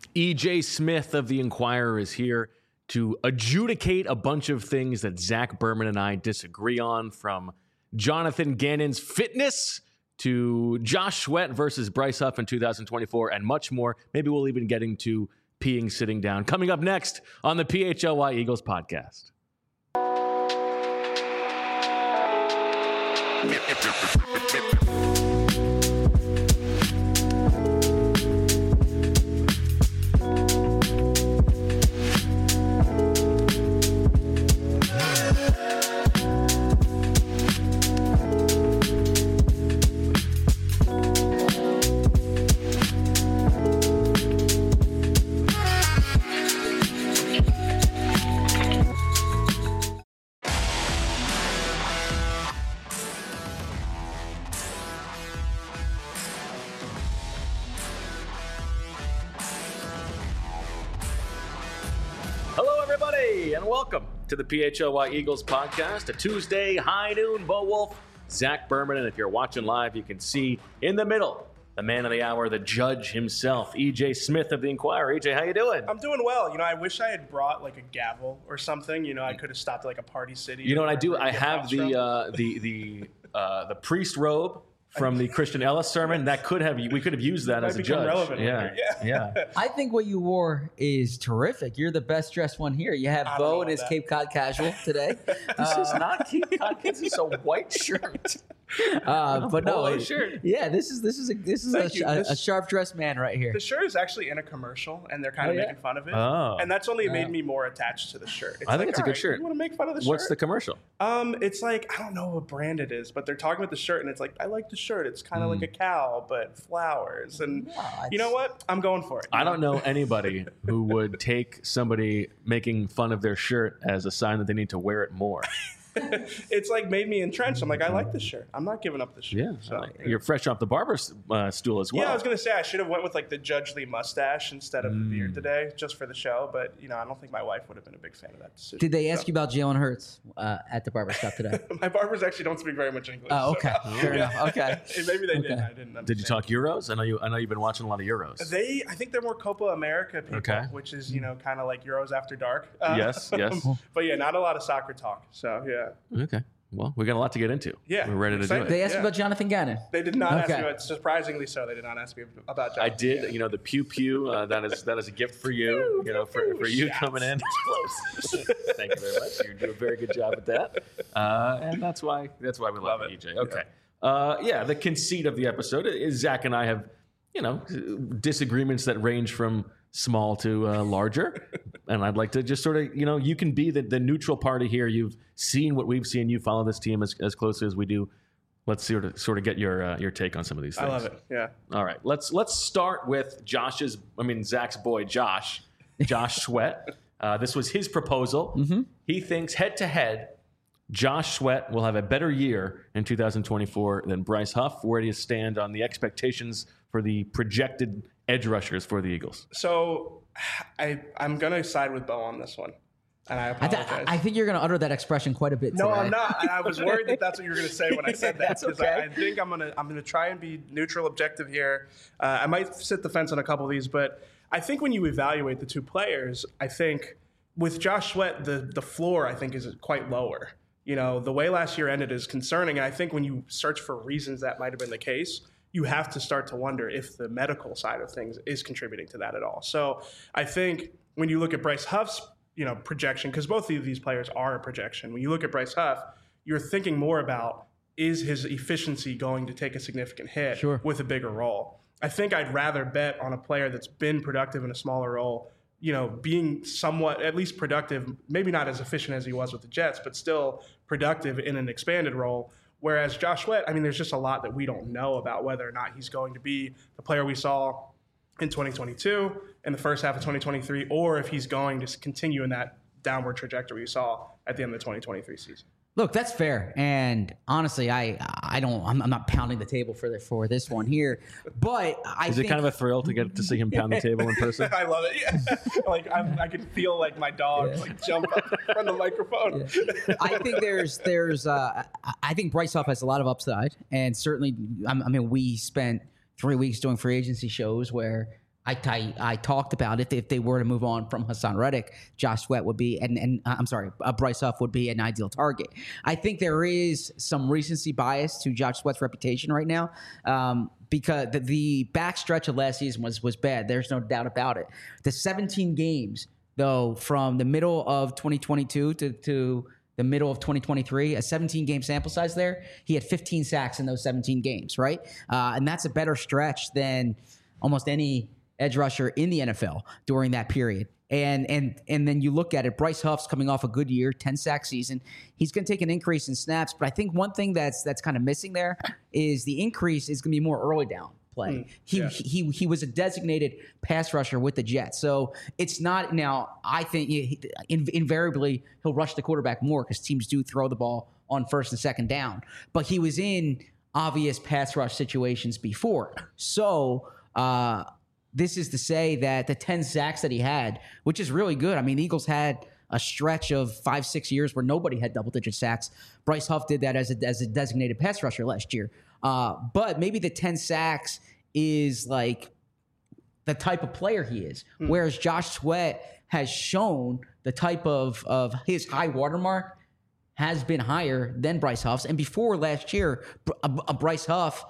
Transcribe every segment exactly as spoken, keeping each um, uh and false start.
E J Smith of the Inquirer is here to adjudicate a bunch of things that Zach Berman and I disagree on, from Jonathan Gannon's fitness to Josh Sweat versus Bryce Huff in two thousand twenty-four, and much more. Maybe we'll even get into peeing sitting down. Coming up next on the P H L Y Eagles podcast. Welcome to the P H L Y Eagles podcast, a Tuesday high noon. Bo Wolf, Zach Berman, and if you're watching live, you can see in the middle the man of the hour, the judge himself, E J Smith of the Inquirer. E J, how you doing? I'm doing well. You know, I wish I had brought like a gavel or something. You know, I could have stopped at like a Party City. You know what I do? I have the uh, the the uh, the priest robe from the Christian Ellis sermon. That could have we could have used that as a judge. Relevant yeah, yeah, yeah. I think what you wore is terrific. You're the best dressed one here. You have Bo in his that. Cape Cod casual today. This uh, is not Cape Cod. This is a white shirt. Uh, but no, it, shirt. yeah, this is this is a this is a, this, a sharp dressed man right here. The shirt is actually in a commercial, and they're kind oh, of yeah? making fun of it. Oh. And that's only oh. made me more attached to the shirt. It's I like, think it's a good right, shirt. You want to make fun of the shirt? What's the commercial? Um, it's like I don't know what brand it is, but they're talking about the shirt, and it's like I like the shirt. It's kind of mm. like a cow, but flowers, and yeah, you know what? I'm going for it. I don't know anybody who would take somebody making fun of their shirt as a sign that they need to wear it more. It's like made me entrenched. I'm like, I like this shirt. I'm not giving up the shirt. Yeah, so, like, you're fresh off the barber uh, stool as well. Yeah, I was gonna say I should have went with like the Judge Lee mustache instead of mm. the beard today, just for the show. But you know, I don't think my wife would have been a big fan of that decision. Did they ask so. you about Jalen Hurts uh, at the barbershop today? My barbers actually don't speak very much English. Oh, okay, so. fair enough. Okay, maybe they okay. didn't. I didn't understand. Did you talk Euros? I know you. I know you've been watching a lot of Euros. They, I think they're more Copa America people, okay. which is you know kind of like Euros after dark. Uh, yes, yes. But yeah, not a lot of soccer talk. So yeah. Okay. Well, we got a lot to get into. Yeah, we're ready to excited. do it. They asked yeah. about Jonathan Gannon. They did not okay. ask me about. Surprisingly, so they did not ask me about Jonathan. I did. Gannon. You know, the pew pew. Uh, that is that is a gift for you. Pew, you know, for, pew, for you shots. coming in. Thank you very much. You do a very good job at that, uh, and that's why that's why we love, love it, E J. Okay. Yeah. Uh, yeah, the conceit of the episode is Zach and I have, you know, disagreements that range from small to uh, larger. And I'd like to just sort of, you know, you can be the, the neutral party here. You've seen what we've seen. You follow this team as, as closely as we do. Let's sort of sort of get your uh, your take on some of these things. I love it. Yeah. All right. Let's let's start with Josh's, I mean, Zach's boy, Josh, Josh Sweat. Uh, this was his proposal. Mm-hmm. He thinks head to head, Josh Sweat will have a better year in two thousand twenty-four than Bryce Huff. Where do you stand on the expectations for the projected edge rushers for the Eagles? So I, I'm going to side with Bo on this one. And I I, apologize. th- I think you're going to utter that expression quite a bit no, today. I'm not. I was worried that that's what you were going to say when I said that. That's Because okay. I, I think I'm going to I'm going to try and be neutral, objective here. Uh, I might sit the fence on a couple of these, but I think when you evaluate the two players, I think with Josh Sweat, the the floor I think is quite lower. You know, the way last year ended is concerning, and I think when you search for reasons that might have been the case, you have to start to wonder if the medical side of things is contributing to that at all. So I think when you look at Bryce Huff's, you know, projection, because both of these players are a projection. When you look at Bryce Huff, you're thinking more about, is his efficiency going to take a significant hit Sure. with a bigger role? I think I'd rather bet on a player that's been productive in a smaller role, you know, being somewhat at least productive, maybe not as efficient as he was with the Jets, but still productive in an expanded role. Whereas Josh Sweat, I mean, there's just a lot that we don't know about whether or not he's going to be the player we saw in twenty twenty-two, in the first half of twenty twenty-three, or if he's going to continue in that downward trajectory we saw at the end of the twenty twenty-three season. Look, that's fair, and honestly, I I don't I'm, I'm not pounding the table for the, for this one here, but I is think, it kind of a thrill to get to see him pound the table in person? I love it. Yeah. Like I'm, I can feel like my dog Yeah. like jump up from the microphone. Yeah. I think there's there's uh, I think Bryce Huff has a lot of upside, and certainly I mean we spent three weeks doing free agency shows where I, I, I talked about if, if they were to move on from Hassan Reddick, Josh Sweat would be, and, and uh, I'm sorry, uh, Bryce Huff would be an ideal target. I think there is some recency bias to Josh Sweat's reputation right now, um, because the, the backstretch of last season was was bad. There's no doubt about it. The seventeen games, though, from the middle of twenty twenty-two to, to the middle of twenty twenty-three, a seventeen game sample size there, he had fifteen sacks in those seventeen games, right? Uh, and that's a better stretch than almost any edge rusher in the N F L during that period. And and and then you look at it, Bryce Huff's coming off a good year, ten sack season. He's going to take an increase in snaps, but I think one thing that's that's kind of missing there is the increase is going to be more early down play. Mm, he, yeah. he he was a designated pass rusher with the Jets. So it's not now, I think he, in, invariably he'll rush the quarterback more because teams do throw the ball on first and second down. But he was in obvious pass rush situations before. So uh this is to say that the ten sacks that he had, which is really good. I mean, Eagles had a stretch of five, six years where nobody had double-digit sacks. Bryce Huff did that as a, as a designated pass rusher last year. Uh, but maybe the ten sacks is like the type of player he is, mm. whereas Josh Sweat has shown the type of, of his high watermark has been higher than Bryce Huff's. And before last year, a, a Bryce Huff,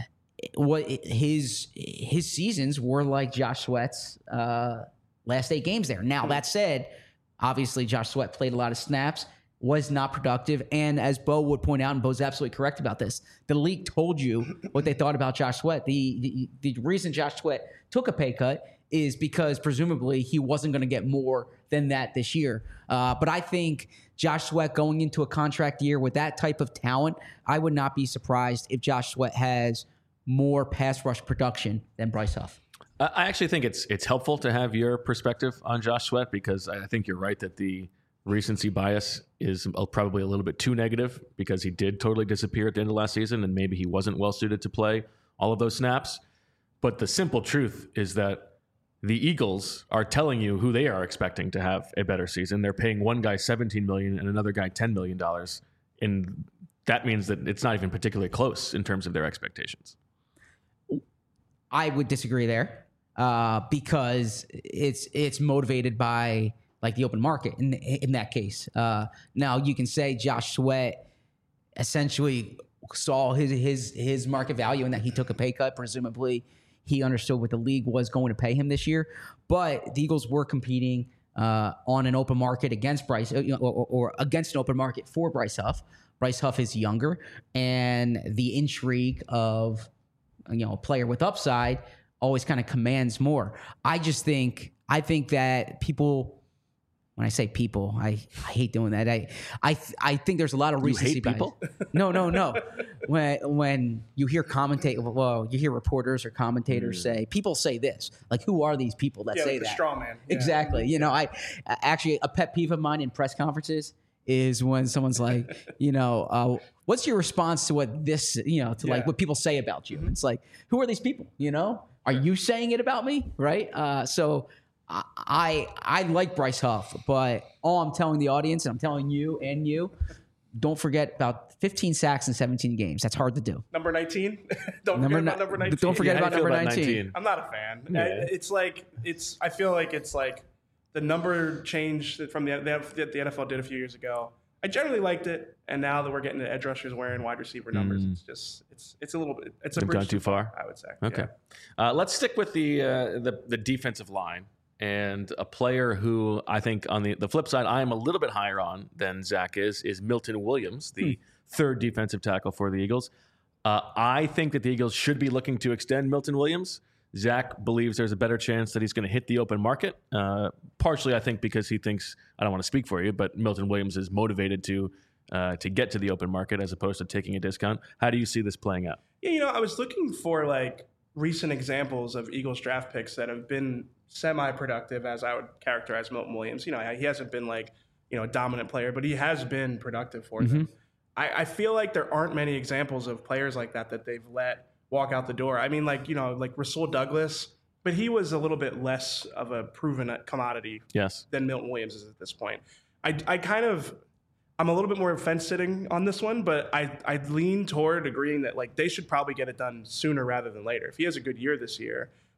what his his seasons were like Josh Sweat's uh, last eight games there. Now, that said, obviously Josh Sweat played a lot of snaps, was not productive, and as Bo would point out, and Bo's absolutely correct about this, the league told you what they thought about Josh Sweat. The, the, the reason Josh Sweat took a pay cut is because presumably he wasn't going to get more than that this year. Uh, but I think Josh Sweat going into a contract year with that type of talent, I would not be surprised if Josh Sweat has more pass rush production than Bryce Huff. I actually think it's it's helpful to have your perspective on Josh Sweat because I think you're right that the recency bias is probably a little bit too negative because he did totally disappear at the end of last season and maybe he wasn't well suited to play all of those snaps. But the simple truth is that the Eagles are telling you who they are expecting to have a better season. They're paying one guy seventeen million dollars and another guy ten million dollars. And that means that it's not even particularly close in terms of their expectations. I would disagree there uh, because it's it's motivated by like the open market in in that case. Uh, now you can say Josh Sweat essentially saw his his his market value in that he took a pay cut. Presumably, he understood what the league was going to pay him this year. But the Eagles were competing uh, on an open market against Bryce, or, or, or against an open market for Bryce Huff. Bryce Huff is younger, and the intrigue of you know, a player with upside always kind of commands more. I just think, I think that people, when I say people, I, I hate doing that. I, I, I think there's a lot of recency you hate people? bias. No, no, no. when, when you hear commentate, well, you hear reporters or commentators mm. say, people say this, like, who are these people that yeah, say like that? The straw man. Yeah. Exactly. You know, I actually, a pet peeve of mine in press conferences is when someone's like, you know, uh, what's your response to what this, you know, to yeah. like what people say about you? Mm-hmm. It's like, who are these people? You know, are you saying it about me? Right. Uh, so I, I, I like Bryce Huff, but all I'm telling the audience and I'm telling you and you, don't forget about fifteen sacks in seventeen games. That's hard to do. Number nineteen. don't number forget ni- about number nineteen. Don't forget yeah, about number about nineteen. nineteen. I'm not a fan. Yeah. I, it's like, it's, I feel like it's like the number change from the, the, the N F L did a few years ago. I generally liked it, and now that we're getting the edge rushers wearing wide receiver numbers, mm. it's just it's it's a little bit it's a They've bridge gone too far. I would say. Okay, yeah. uh, let's stick with the, uh, the the defensive line and a player who I think on the the flip side I am a little bit higher on than Zach is is Milton Williams, the hmm. third defensive tackle for the Eagles. Uh, I think that the Eagles should be looking to extend Milton Williams. Zach believes there's a better chance that he's going to hit the open market. Uh, partially, I think, because he thinks, I don't want to speak for you, but Milton Williams is motivated to uh, to get to the open market as opposed to taking a discount. How do you see this playing out? Yeah, you know, I was looking for like recent examples of Eagles draft picks that have been semi-productive, as I would characterize Milton Williams. You know, he hasn't been like, you know, a dominant player, but he has been productive for mm-hmm. them. I, I feel like there aren't many examples of players like that that they've let walk out the door. I mean, like, you know, like Rasul Douglas, but he was a little bit less of a proven commodity yes. than Milton Williams is at this point. I, I kind of, I'm a little bit more fence sitting on this one, but I, I lean toward agreeing that like they should probably get it done sooner rather than later. If he has a good year this year,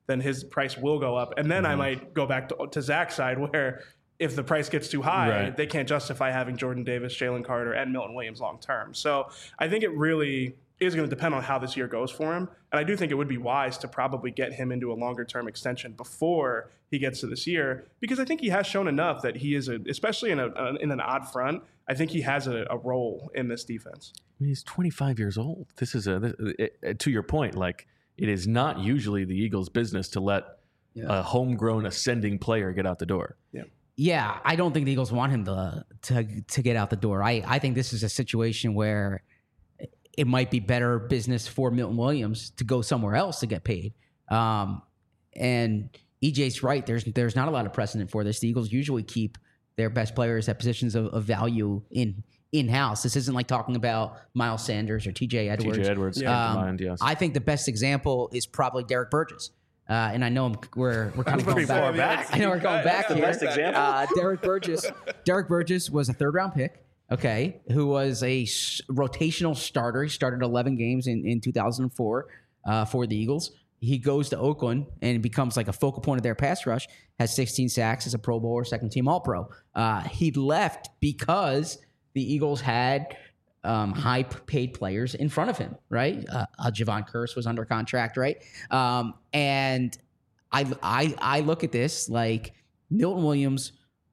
then his price will go up. And then mm-hmm. I might go back to, to Zach's side where if the price gets too high, right. they can't justify having Jordan Davis, Jalen Carter, and Milton Williams long term. So I think it really is going to depend on how this year goes for him. And I do think it would be wise to probably get him into a longer term extension before he gets to this year, because I think he has shown enough that he is, a, especially in, a, in an odd front, I think he has a, a role in this defense. I mean, he's twenty-five years old. This is a, this, it, to your point, like it is not usually the Eagles' business to let yeah. a homegrown ascending player get out the door. Yeah. Yeah, I don't think the Eagles want him to to to get out the door. I, I think this is a situation where it might be better business for Milton Williams to go somewhere else to get paid. Um, and E J's right. There's there's not a lot of precedent for this. The Eagles usually keep their best players at positions of, of value in in house. This isn't like talking about Miles Sanders or T J Edwards. T J Edwards, yeah. um, mind, yes. I think the best example is probably Derek Burgess. Uh, and I know I'm, we're we're kind of going back. back. I know we're going back That's here. The best example. Uh, Derek Burgess. Derek Burgess was a third round pick. Okay, who was a s- rotational starter. He started eleven games in, in two thousand four uh, for the Eagles. He goes to Oakland and becomes like a focal point of their pass rush. Has sixteen sacks as a Pro Bowler, second team All Pro. Uh, he left because the Eagles had um, high paid players in front of him, right? Uh, uh, Javon Curse was under contract, right? Um, and I, I, I look at this like Milton Williams.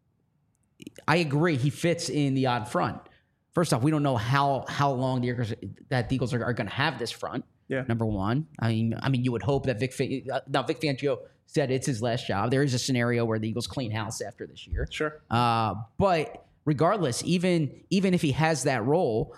I agree, he fits in the odd front. First off, we don't know how how long the Eagles, that the Eagles are, are going to have this front. Yeah. Number one, I mean, I mean, you would hope that Vic. Uh, now, Vic Fangio said it's his last job. There is a scenario where the Eagles clean house after this year. Sure. Uh, but regardless, even even if he has that role,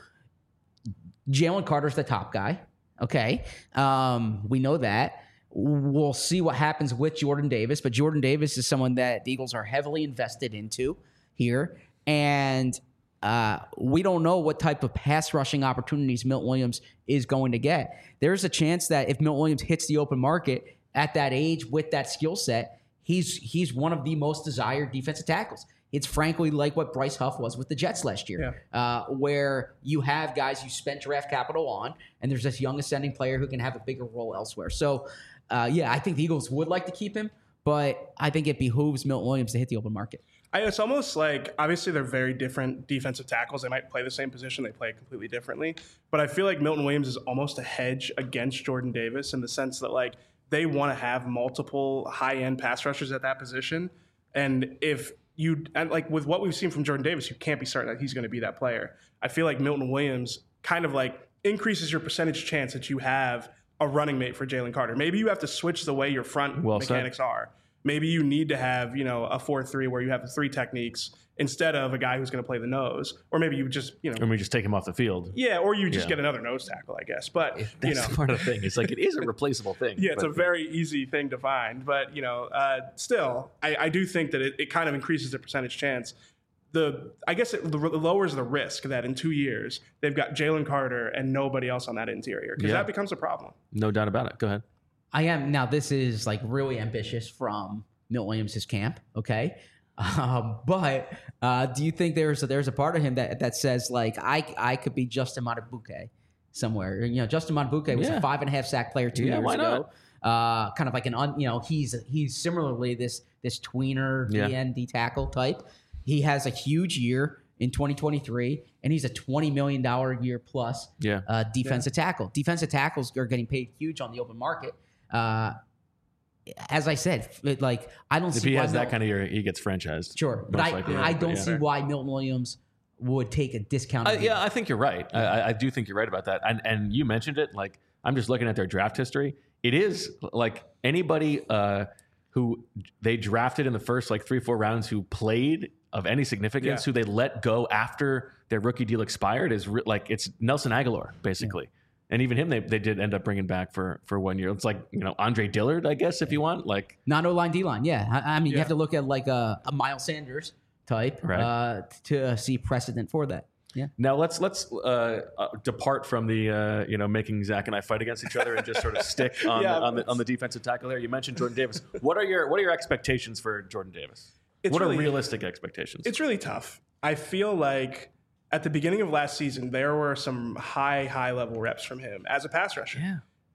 Jalen Carter's the top guy. Okay, um, we know that. We'll see what happens with Jordan Davis, but Jordan Davis is someone that the Eagles are heavily invested into here, and uh, we don't know what type of pass rushing opportunities Milton Williams is going to get. There's a chance that if Milton Williams hits the open market at that age with that skill set, he's he's one of the most desired defensive tackles. It's frankly like what Bryce Huff was with the Jets last year, yeah. uh, where you have guys you spent draft capital on, and there's this young ascending player who can have a bigger role elsewhere. So, uh, yeah, I think the Eagles would like to keep him, but I think it behooves Milton Williams to hit the open market. I, it's almost like, obviously they're very different defensive tackles. They might play the same position. They play it completely differently. But I feel like Milton Williams is almost a hedge against Jordan Davis in the sense that, like, they want to have multiple high-end pass rushers at that position. And if you, and like with what we've seen from Jordan Davis, you can't be certain that he's going to be that player. I feel like Milton Williams kind of like increases your percentage chance that you have a running mate for Jalen Carter. Maybe you have to switch the way your front well mechanics said. are. Maybe you need to have, you know, a four three where you have the three techniques instead of a guy who's going to play the nose. Or maybe you just, you know. Or we just take him off the field. Yeah, or you just yeah. get another nose tackle, I guess. But, That's you know. part of the thing. It's like it is a replaceable thing. Yeah, it's but, a very easy thing to find. But, you know, uh, still, I, I do think that it, it kind of increases the percentage chance. The I guess it lowers the risk that in two years they've got Jalen Carter and nobody else on that interior, because yeah. that becomes a problem. No doubt about it. Go ahead. I am. Now, this is like really ambitious from Milton Williams' camp, okay? Uh, but uh, do you think there's a, there's a part of him that that says, like, I I could be Justin Madubuike somewhere? You know, Justin Madubuike was yeah. a five and a half sack player two yeah, years why ago. Not? Uh, kind of like an, un, you know, he's he's similarly this this tweener yeah. D N D tackle type. He has a huge year in twenty twenty-three, and he's a twenty million dollars a year plus yeah. uh, defensive yeah. tackle. Defensive tackles are getting paid huge on the open market. Uh, as I said, it, like I don't if see if he why has Mil- that kind of year, he gets franchised. Sure, but I, likely, I don't yeah. see why Milton Williams would take a discount. Uh, yeah, I think you're right. I, I do think you're right about that. And and you mentioned it. Like I'm just looking at their draft history. It is like anybody uh, who they drafted in the first like three four rounds who played of any significance, yeah. who they let go after their rookie deal expired, is re- like it's Nelson Aguilar basically. Yeah. And even him, they they did end up bringing back for for one year. It's like, you know, Andre Dillard, I guess, if you want. Like not O-line, D-line, yeah. I, I mean, yeah. you have to look at like a, a Miles Sanders type right. uh, to uh, see precedent for that. Yeah. Now let's let's uh, uh, depart from the uh, you know making Zach and I fight against each other and just sort of stick on yeah, the, on the on the defensive tackle there. You mentioned Jordan Davis. What are your what are your expectations for Jordan Davis? It's what really, are realistic expectations? It's really tough. I feel like at the beginning of last season, there were some high, high level reps from him as a pass rusher. Yeah.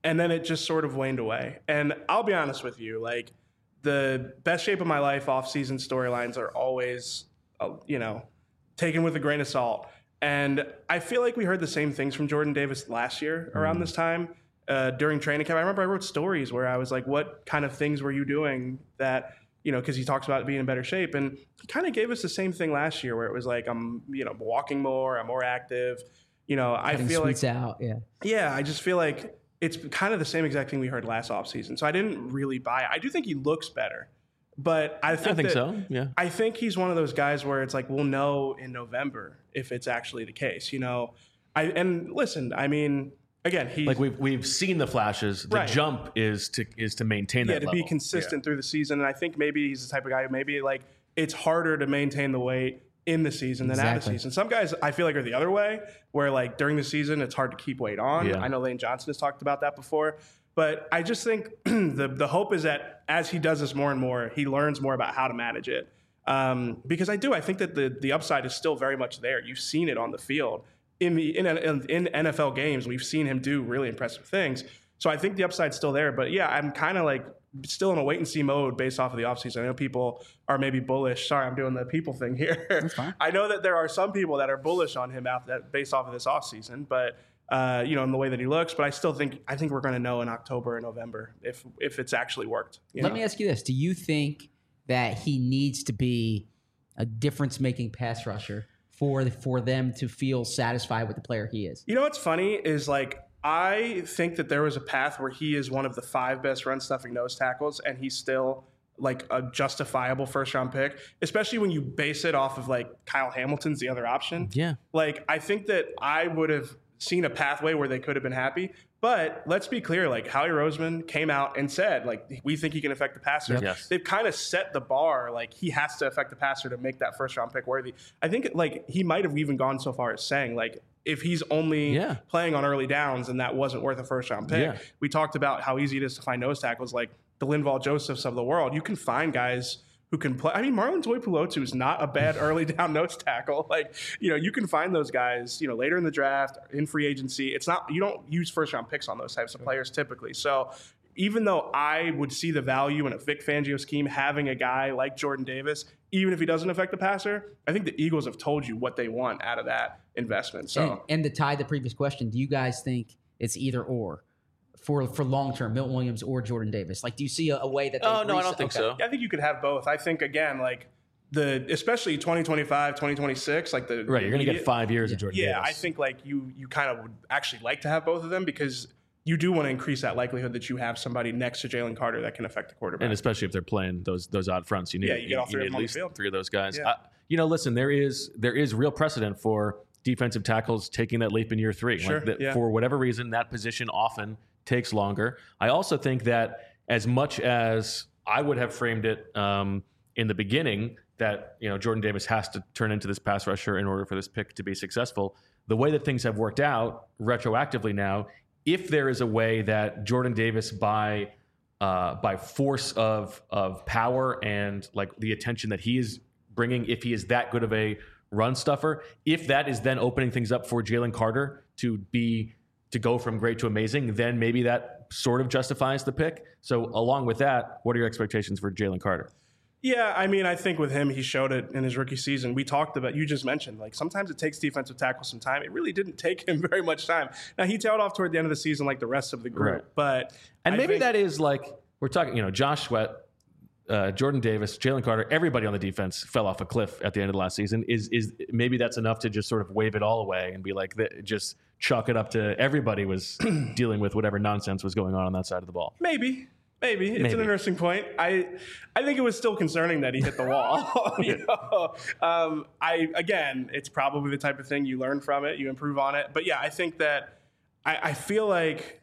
and then it just sort of waned away. And I'll be honest with you, like the best shape of my life off-season storylines are always, uh, you know, taken with a grain of salt. And I feel like we heard the same things from Jordan Davis last year around mm. this time uh, during training camp. I remember I wrote stories where I was like, what kind of things were you doing that, you know, because he talks about being in better shape. And he kind of gave us the same thing last year where it was like, I'm, you know, walking more, I'm more active. You know, I Cutting feel like, out, yeah. Yeah, I just feel like it's kind of the same exact thing we heard last offseason. So I didn't really buy it. I do think he looks better, but I think, I think that, so. Yeah. I think he's one of those guys where it's like, we'll know in November if it's actually the case, you know? I, and listen, I mean, again, he like we've, we've seen the flashes. The right. jump is to, is to maintain that Yeah, to level. be consistent yeah. through the season. And I think maybe he's the type of guy who maybe like it's harder to maintain the weight in the season than exactly. out of season. Some guys I feel like are the other way, where like during the season it's hard to keep weight on. Yeah. I know Lane Johnson has talked about that before, but I just think the the hope is that as he does this more and more, he learns more about how to manage it. Um, because I do, I think that the the upside is still very much there. You've seen it on the field in the in in, in N F L games. We've seen him do really impressive things. So I think the upside's still there. But yeah, I'm kind of like still in a wait and see mode based off of the offseason. I know people are maybe bullish. Sorry, I'm doing the people thing here. That's fine. I know that there are some people that are bullish on him out that based off of this offseason, but uh, you know, in the way that he looks. But I still think I think we're going to know in October and November if if it's actually worked. Let know? me ask you this: do you think that he needs to be a difference-making pass rusher for the, for them to feel satisfied with the player he is? You know what's funny is like, I think that there was a path where he is one of the five best run-stuffing nose tackles, and he's still like a justifiable first-round pick, especially when you base it off of like Kyle Hamilton's the other option. Yeah. Like, I think that I would have seen a pathway where they could have been happy. But let's be clear, like Howie Roseman came out and said, like, we think he can affect the passer. Yes. They've kind of set the bar, like he has to affect the passer to make that first round pick worthy. I think like he might have even gone so far as saying, like, if he's only yeah. playing on early downs and that wasn't worth a first round pick. Yeah. We talked about how easy it is to find nose tackles like the Linval Josephs of the world. You can find guys who can play. I mean, Marlon Tuipulotu is not a bad early down nose tackle. Like, you know, you can find those guys, you know, later in the draft, in free agency. It's not, you don't use first round picks on those types of players typically. So even though I would see the value in a Vic Fangio scheme having a guy like Jordan Davis, even if he doesn't affect the passer, I think the Eagles have told you what they want out of that investment. So, and, and to tie the previous question, do you guys think it's either or? For for long term, Milton Williams or Jordan Davis, like, do you see a, a way that? They oh no, I don't think okay. so. Yeah, I think you could have both. I think again, like the especially twenty twenty-five, twenty twenty-six, like the right. You're going to get five years yeah. of Jordan yeah, Davis. I think like you you kind of would actually like to have both of them because you do want to increase that likelihood that you have somebody next to Jalen Carter that can affect the quarterback. And especially if they're playing those those odd fronts, you need, yeah, you get all three you of need them at on the least field. three of those guys. Yeah. Uh, you know, listen, there is there is real precedent for defensive tackles taking that leap in year three. Sure, Like the, yeah. For whatever reason, that position often takes longer. I also think that as much as I would have framed it um, in the beginning, that you know Jordan Davis has to turn into this pass rusher in order for this pick to be successful. The way that things have worked out retroactively now, if there is a way that Jordan Davis by uh, by force of of power and like the attention that he is bringing, if he is that good of a run stuffer, if that is then opening things up for Jalen Carter to be to go from great to amazing, then maybe that sort of justifies the pick. So along with that, what are your expectations for Jalen Carter? Yeah, I mean, I think with him, he showed it in his rookie season. We talked about, you just mentioned, like sometimes it takes defensive tackles some time. It really didn't take him very much time. Now, he tailed off toward the end of the season like the rest of the group. Right. But And I maybe think, that is like, we're talking, you know, Josh Sweat, uh, Jordan Davis, Jalen Carter, everybody on the defense fell off a cliff at the end of the last season. Is is maybe that's enough to just sort of wave it all away and be like, just chalk it up to everybody was dealing with whatever nonsense was going on on that side of the ball. Maybe. Maybe. It's Maybe. an interesting point. I I think it was still concerning that he hit the wall. you know? um, I again, it's probably the type of thing you learn from it, you improve on it. But yeah, I think that I, I feel like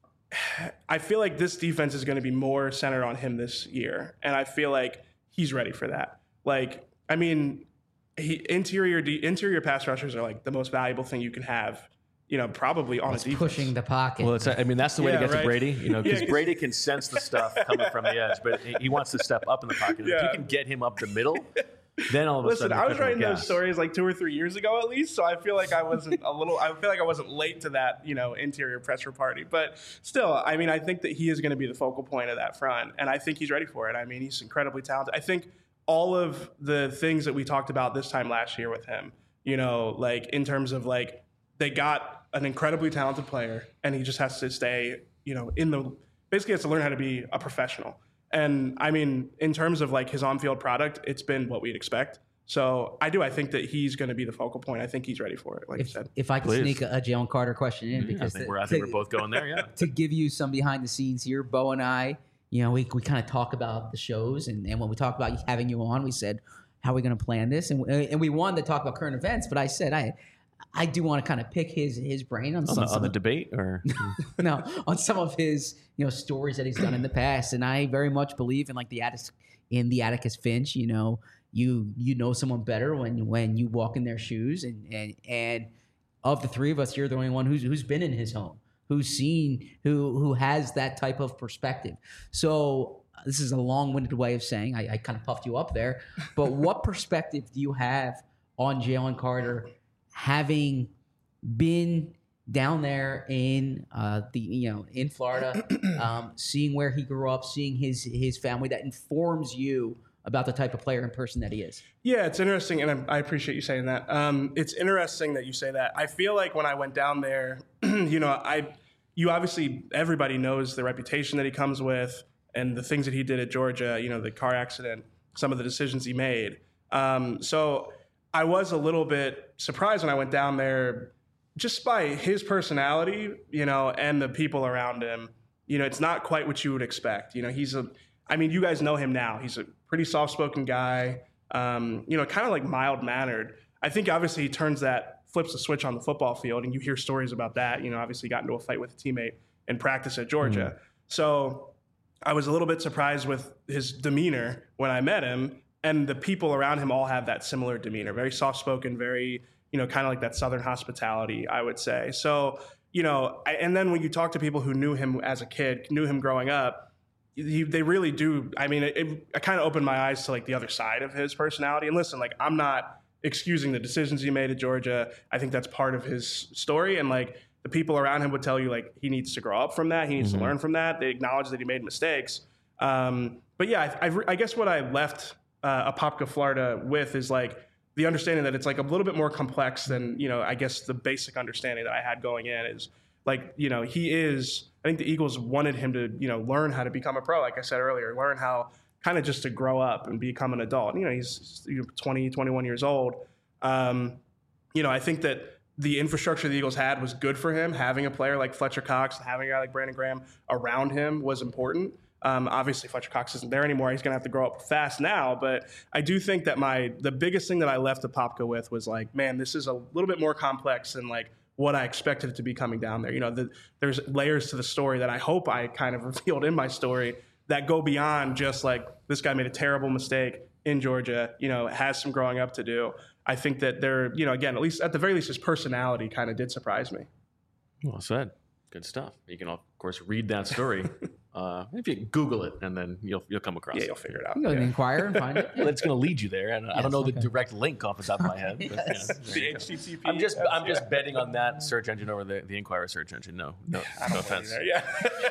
I feel like this defense is going to be more centered on him this year, and I feel like he's ready for that. Like, I mean, he, interior de- interior pass rushers are like the most valuable thing you can have. You know, probably on It's a defense. pushing the pocket. Well, it's, I mean, that's the way Yeah, to get right. to Brady, you know, because Yeah, 'cause- Brady can sense the stuff coming from the edge, but he wants to step up in the pocket. Yeah. If you can get him up the middle, then all of a Listen, sudden, I was writing those gas. stories like two or three years ago at least, so I feel like I wasn't a little. I feel like I wasn't late to that, you know, interior presser party. But still, I mean, I think that he is going to be the focal point of that front, and I think he's ready for it. I mean, he's incredibly talented. I think all of the things that we talked about this time last year with him, you know, like in terms of like they got an incredibly talented player, and he just has to stay, you know, in the basically has to learn how to be a professional. And I mean, in terms of like his on-field product, it's been what we'd expect. So I do. I think that he's going to be the focal point. I think he's ready for it, like If, you said. if I could Please. sneak a, a Jalen Carter question in, I because think, to, we're, I think to- we're both going there. Yeah. to give you some behind the scenes here, Bo and I, you know, we, we kind of talk about the shows, and, and when we talk about having you on, we said, how are we going to plan this? And, and we wanted to talk about current events, but I said, I I do want to kind of pick his his brain on On some, the, some on the of- debate, or no, on some of his, you know, stories that he's done in the past. And I very much believe in like the Atticus, in the Atticus Finch, you know, you you know someone better when when you walk in their shoes, and and and of the three of us, you're the only one who's who's been in his home, who's seen, who who has that type of perspective. So this is a long-winded way of saying I, I kind of puffed you up there, but what perspective do you have on Jalen Carter, having been down there in uh, the you know in Florida, um, seeing where he grew up, seeing his his family, that informs you about the type of player and person that he is? Yeah, it's interesting, and I, I appreciate you saying that. Um, it's interesting that you say that. I feel like when I went down there, you know, I, you obviously, everybody knows the reputation that he comes with and the things that he did at Georgia, you know, the car accident, some of the decisions he made. Um, so I was a little bit surprised when I went down there just by his personality, you know, and the people around him. You know, it's not quite what you would expect. You know, he's a, I mean, you guys know him now. He's a pretty soft-spoken guy, um, you know, kind of like mild-mannered. I think obviously he turns that, flips the switch on the football field, and you hear stories about that. You know, obviously got into a fight with a teammate in practice at Georgia. Mm-hmm. So I was a little bit surprised with his demeanor when I met him, and the people around him all have that similar demeanor, very soft-spoken, very, you know, kind of like that Southern hospitality, I would say. So, you know, I, and then when you talk to people who knew him as a kid, knew him growing up, He, they really do. I mean, it, it, it kind of opened my eyes to like the other side of his personality. And listen, like I'm not excusing the decisions he made at Georgia. I think that's part of his story. And like the people around him would tell you, like he needs to grow up from that. He needs mm-hmm. to learn from that. They acknowledge that he made mistakes. Um, but yeah, I, I, I guess what I left uh, Apopka, Florida with is like the understanding that it's like a little bit more complex than, you know, I guess the basic understanding that I had going in is like, you know, he is. I think the Eagles wanted him to, you know, learn how to become a pro, like I said earlier, learn how kind of just to grow up and become an adult. You know, he's twenty, twenty-one years old. Um, you know, I think that the infrastructure the Eagles had was good for him. Having a player like Fletcher Cox, having a guy like Brandon Graham around him was important. Um, obviously, Fletcher Cox isn't there anymore. He's going to have to grow up fast now. But I do think that my the biggest thing that I left Apopka with was like, man, this is a little bit more complex than like what I expected it to be coming down there. You know, the, there's layers to the story that I hope I kind of revealed in my story that go beyond just like this guy made a terrible mistake in Georgia, you know, has some growing up to do. I think that there, you know, again, at least at the very least, his personality kind of did surprise me. Well said. Good stuff. You can, of course, read that story. Uh, if you Google it, and then you'll you'll come across yeah, it. You'll figure it out. You go yeah. to Inquirer and find it. Well, it's going to lead you there, and yes, I don't know okay. the direct link off the top of my head. But, Yes. yeah, The H T T P. I'm just I'm just betting on that search engine over the, the Inquirer search engine. No, no, no offense. Yeah.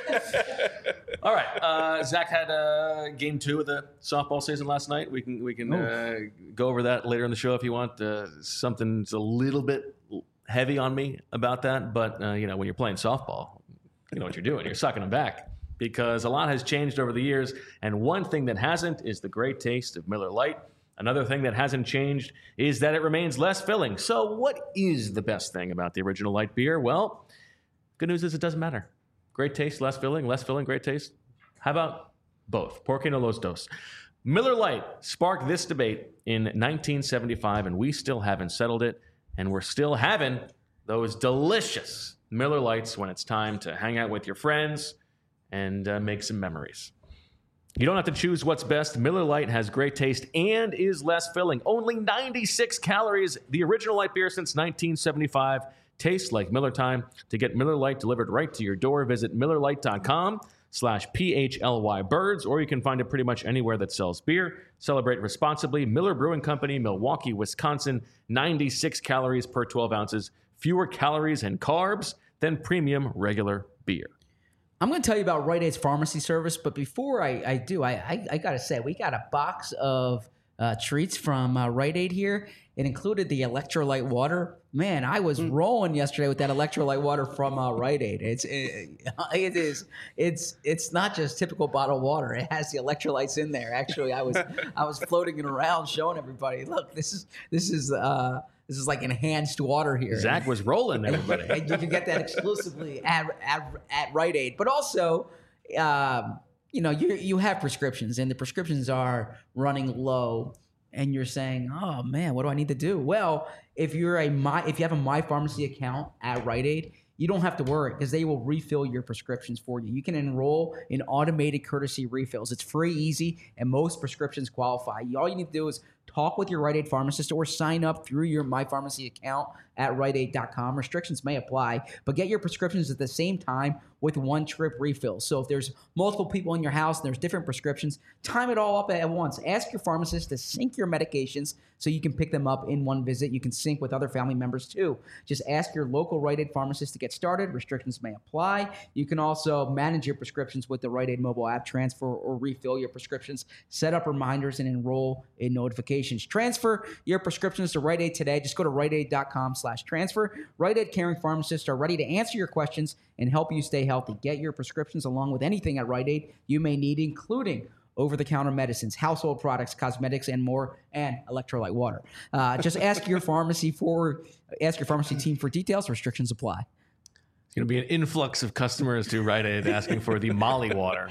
All right, uh, Zach had uh, game two of the softball season last night. We can we can uh, go over that later in the show if you want. Uh, something's a little bit heavy on me about that, but uh, you know, when you're playing softball, you know what you're doing. You're sucking them back. Because a lot has changed over the years, and one thing that hasn't is the great taste of Miller Lite. Another thing that hasn't changed is that it remains less filling. So what is the best thing about the original light beer? Well, good news is it doesn't matter. Great taste, less filling, less filling, great taste. How about both? Por qué no los dos? Miller Lite sparked this debate in nineteen seventy-five, and we still haven't settled it, and we're still having those delicious Miller Lights when it's time to hang out with your friends and uh, make some memories. You don't have to choose what's best. Miller Lite has great taste and is less filling. Only ninety-six calories. The original light beer since nineteen seventy-five tastes like Miller time. To get Miller Lite delivered right to your door, visit Miller Lite dot com. slash P H L Y birds, or you can find it pretty much anywhere that sells beer. Celebrate responsibly. Miller Brewing Company, Milwaukee, Wisconsin, ninety-six calories per twelve ounces, fewer calories and carbs than premium regular beer. I'm going to tell you about Rite Aid's pharmacy service, but before I, I do, I, I, I got to say, we got a box of uh, treats from uh, Rite Aid here. It included the electrolyte water. Man, I was mm. rolling yesterday with that electrolyte water from uh, Rite Aid. It's it, it is it's it's not just typical bottled water. It has the electrolytes in there. Actually, I was I was floating it around, showing everybody, look, this is this is uh, this is like enhanced water here. Zach was rolling everybody. And you can get that exclusively at at, at Rite Aid. But also, um, you know, you you have prescriptions, and the prescriptions are running low. And you're saying, oh man, what do I need to do? Well, if you're a my, if you have a My Pharmacy account at Rite Aid, you don't have to worry because they will refill your prescriptions for you. You can enroll in automated courtesy refills. It's free, easy, and most prescriptions qualify. All you need to do is talk with your Rite Aid pharmacist or sign up through your My Pharmacy account at rite aid dot com. Restrictions may apply, but get your prescriptions at the same time with one trip refill. So if there's multiple people in your house and there's different prescriptions, time it all up at once. Ask your pharmacist to sync your medications so you can pick them up in one visit. You can sync with other family members too. Just ask your local Rite Aid pharmacist to get started. Restrictions may apply. You can also manage your prescriptions with the Rite Aid mobile app, transfer or refill your prescriptions, set up reminders, and enroll in notifications. Transfer your prescriptions to Rite Aid today. Just go to rite aid dot com slash transfer. Rite Aid caring pharmacists are ready to answer your questions and help you stay healthy. Get your prescriptions along with anything at Rite Aid you may need, including over-the-counter medicines, household products, cosmetics, and more, and electrolyte water. Uh, just ask your pharmacy for ask your pharmacy team for details. Restrictions apply. It's going to be an influx of customers to Rite Aid asking for the Molly water.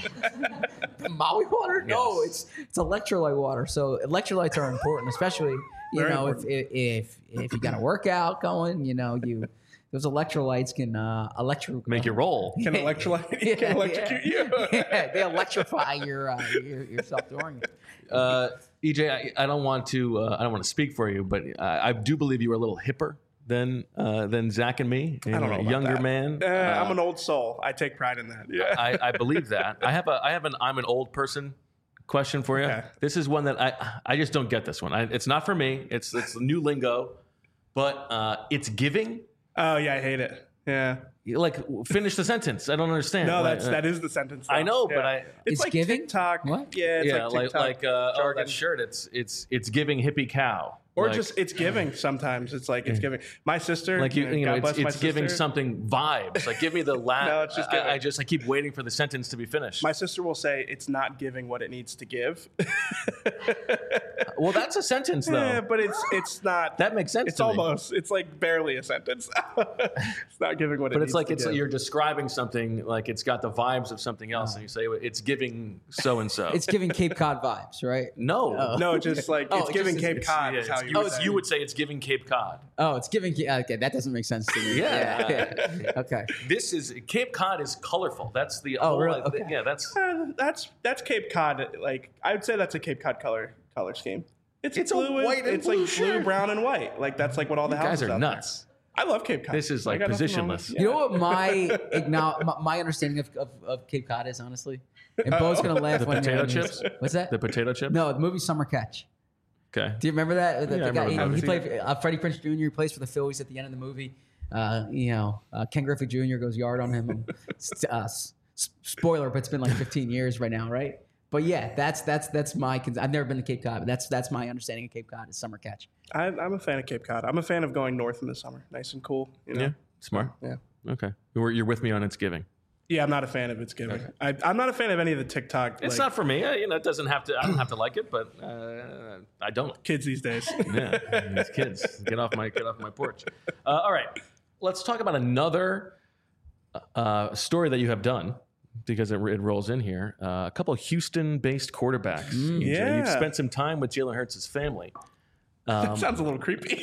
The Molly water? No, Yes. it's it's electrolyte water. So electrolytes are important, especially you Very know if, important. if if if you got a workout going, you know you those electrolytes can uh, electro Make you roll. Can electrolyte can electrocute you. Yeah, they electrify your uh, your yourself during it. Uh, E J, I, I don't want to. Uh, I don't want to speak for you, but I, I do believe you were a little hipper than uh, than Zach and me. I don't know a about younger that. man. Uh, Uh, I'm an old soul. I take pride in that. Yeah. I, I believe that. I have a. I have an. I'm an old person question for you. Okay. This is one that I. I just don't get this one. I, it's not for me. It's it's new lingo, but uh, it's giving. Oh yeah, I hate it. Yeah. Like finish the sentence. I don't understand. No, Like, that's uh, that is the sentence. I though. know, but Yeah. I. It's, It's like giving? TikTok. What? Yeah, it's yeah, like like TikTok like, uh, oh, jargon. that shirt. It's it's it's giving hippie cow. Or Like- just it's giving. Sometimes it's like it's giving. My sister, like you, you know, God it's, bless my it's giving sister. something vibes. Like give me the last. No, it's just I, giving. I just I keep waiting for the sentence to be finished. My sister will say it's not giving what it needs to give. well, that's a sentence though. Yeah, but it's it's not. That makes sense It's to me. almost. It's like barely a sentence. It's not giving what it But needs it's like to it's give. you're describing something like it's got the vibes of something else, and you say it's giving so and so. It's giving Cape Cod vibes, right? no, No, just like Oh, it's it giving just is- Cape It's- Cod. yeah, is how it's- you, you, would would, say. you would say it's giving Cape Cod. Oh, it's giving. Okay, that doesn't make sense to me. Yeah. yeah. Okay. This is Cape Cod is colorful. That's the Oh, whole, really? Okay. yeah. That's Uh, that's that's Cape Cod. Like I would say that's a Cape Cod color color scheme. It's, It's a blue and- white and It's blue like blue, shirt. brown, and white. Like that's like what all the you guys houses are out nuts. there. I love Cape Cod. This is I like got nothing wrong with- positionless. yeah. You know what my, acknow- my my understanding of, of, of Cape Cod is, honestly? And Bo's going to laugh The when potato when- chips? What's that? The potato chip. No, the movie Summer Catch. Okay. Do you remember that? The, Yeah, the I guy, remember you know, that. he played uh, Freddie Prinze Junior He plays for the Phillies at the end of the movie. Uh, you know, uh, Ken Griffey Junior goes yard on him. And, uh, s- spoiler, but it's been like fifteen years right now, right? But yeah, that's that's that's my. cons- I've never been to Cape Cod, but that's that's my understanding of Cape Cod is Summer Catch. I, I'm a fan of Cape Cod. I'm a fan of going north in the summer, nice and cool. You know? Yeah. Smart. Yeah. Okay. You're, you're with me on it's giving. Yeah, I'm not a fan of it's giving. I, I'm not a fan of any of the TikTok. It's like, not for me. Uh, You know, it doesn't have to. I don't have to like it, but uh, I don't. kids these days. Yeah, these kids, get off my get off my porch. Uh, all right, let's talk about another uh, story that you have done because it, it rolls in here. Uh, a couple of Houston-based quarterbacks. E J. yeah. You've spent some time with Jalen Hurts' family. Um, Sounds a little creepy.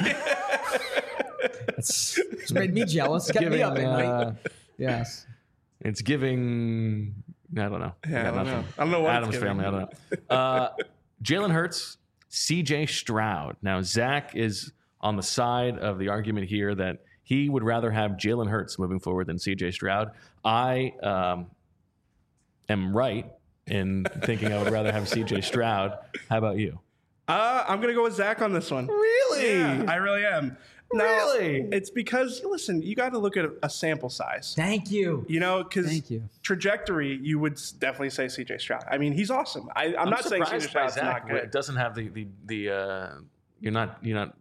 It's, it's made me jealous. Got me giving, up at night. uh, Yes. It's giving. I don't know. Yeah, I got don't nothing. know. I don't know what it's Adam's giving. family. I don't know. Uh, Jalen Hurts, C J Stroud. Now Zach is on the side of the argument here that he would rather have Jalen Hurts moving forward than C J Stroud. I um, am right in thinking I would rather have C J Stroud. How about you? Uh, I'm going to go with Zach on this one. Really? Yeah, I really am. Now, Really? It's because, listen, you got to look at a sample size. Thank you. You know, because Thank you. trajectory, you would s- definitely say C J Stroud. I mean, he's awesome. I, I'm, I'm not saying C J surprised by Stroud's Zach. not good. It doesn't have the the the. Uh, you're not you're not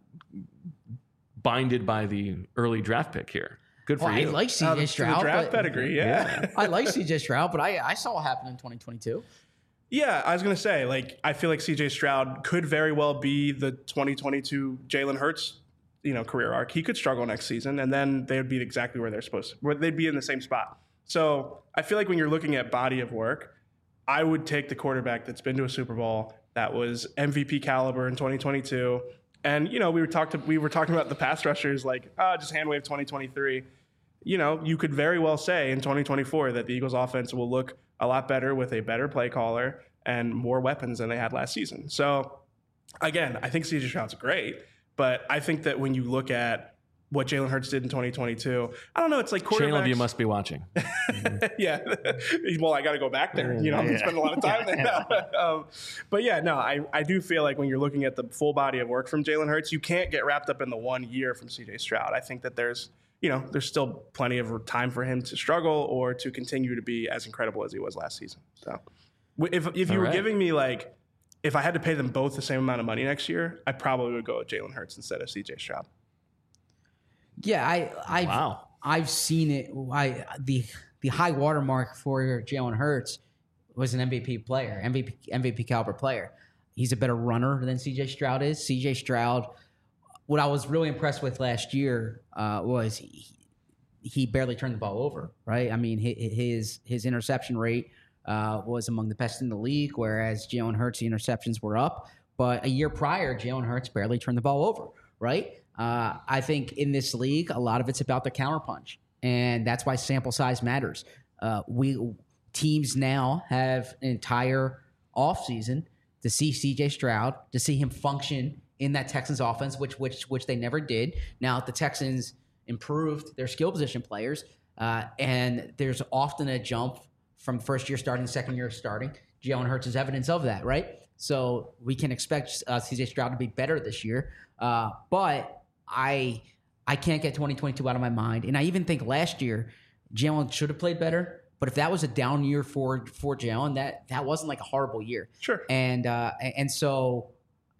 binded by the early draft pick here. Good for Well, I you. like C J Uh, the, the Stroud. draft but- pedigree, yeah. I like C J Stroud, but I, I saw what happened in twenty twenty-two. Yeah, I was going to say, like, I feel like C J Stroud could very well be the twenty twenty-two Jalen Hurts, you know, career arc. He could struggle next season, and then they would be exactly where they're supposed to, where they'd be in the same spot. So I feel like when you're looking at body of work, I would take the quarterback that's been to a Super Bowl, that was M V P caliber in twenty twenty-two. And, you know, we were, talked to, we were talking about the pass rushers, like, ah, just hand wave twenty twenty-three. You know, you could very well say in twenty twenty-four that the Eagles offense will look a lot better with a better play caller and more weapons than they had last season. So, again, I think C J Stroud's great, but I think that when you look at what Jalen Hurts did in twenty twenty-two, I don't know, it's like quarterbacks. Channel of you must be watching. yeah. Well, I got to go back there. You know, I'm going to spend a lot of time there now. um, but yeah, no, I, I do feel like when you're looking at the full body of work from Jalen Hurts, you can't get wrapped up in the one year from C J Stroud. I think that there's, you know, there's still plenty of time for him to struggle or to continue to be as incredible as he was last season. So if, if you All were right. giving me like, if I had to pay them both the same amount of money next year, I probably would go with Jalen Hurts instead of C J Stroud. Yeah, I I've, Wow. I've seen it. I the the high watermark for Jalen Hurts was an M V P player, M V P M V P caliber player. He's a better runner than C J Stroud is. C J Stroud, what I was really impressed with last year uh, was he, he barely turned the ball over. Right? I mean, hi- his his interception rate uh, was among the best in the league, whereas Jalen Hurts, the interceptions were up. But a year prior, Jalen Hurts barely turned the ball over. Right? Uh, I think in this league, a lot of it's about the counterpunch, and that's why sample size matters. Uh, we teams now have an entire offseason to see C J Stroud, to see him function in that Texans offense, which which which they never did. Now the Texans improved their skill position players, uh, and there's often a jump from first year starting, second year starting. Jalen Hurts is evidence of that, right? So we can expect uh, C J Stroud to be better this year, uh, but I I can't get twenty twenty-two out of my mind. And I even think last year Jalen should have played better. But if that was a down year for for Jalen, that that wasn't like a horrible year. Sure. And uh, and so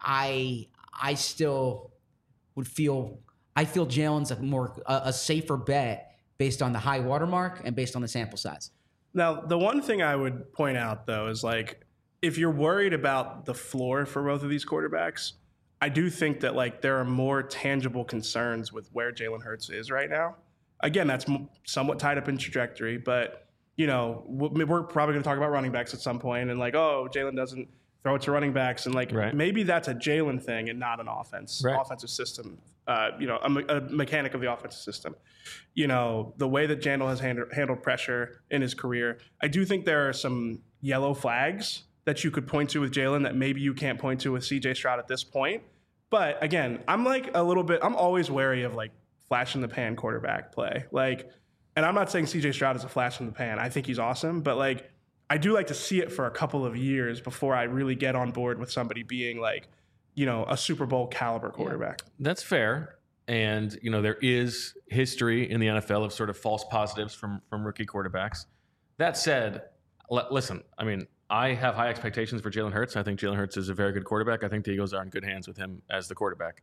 I I still would feel I feel Jalen's a more a, a safer bet based on the high watermark and based on the sample size. Now, the one thing I would point out, though, is like if you're worried about the floor for both of these quarterbacks, I do think that like there are more tangible concerns with where Jalen Hurts is right now. Again, that's m- somewhat tied up in trajectory, but you know w- we're probably going to talk about running backs at some point, and like, oh, Jalen doesn't throw it to running backs, and like Right. maybe that's a Jalen thing and not an offense Right. offensive system. Uh, you know, a, me- a mechanic of the offensive system. You know, the way that Jandal has handled, handled pressure in his career, I do think there are some yellow flags that you could point to with Jalen that maybe you can't point to with C J Stroud at this point. But again, I'm like a little bit, I'm always wary of like flash in the pan quarterback play. Like, and I'm not saying C J Stroud is a flash in the pan. I think he's awesome, but like, I do like to see it for a couple of years before I really get on board with somebody being like, you know, a Super Bowl caliber quarterback. That's fair. And, you know, there is history in the N F L of sort of false positives from, from rookie quarterbacks. That said, l- listen, I mean, I have high expectations for Jalen Hurts. I think Jalen Hurts is a very good quarterback. I think the Eagles are in good hands with him as the quarterback.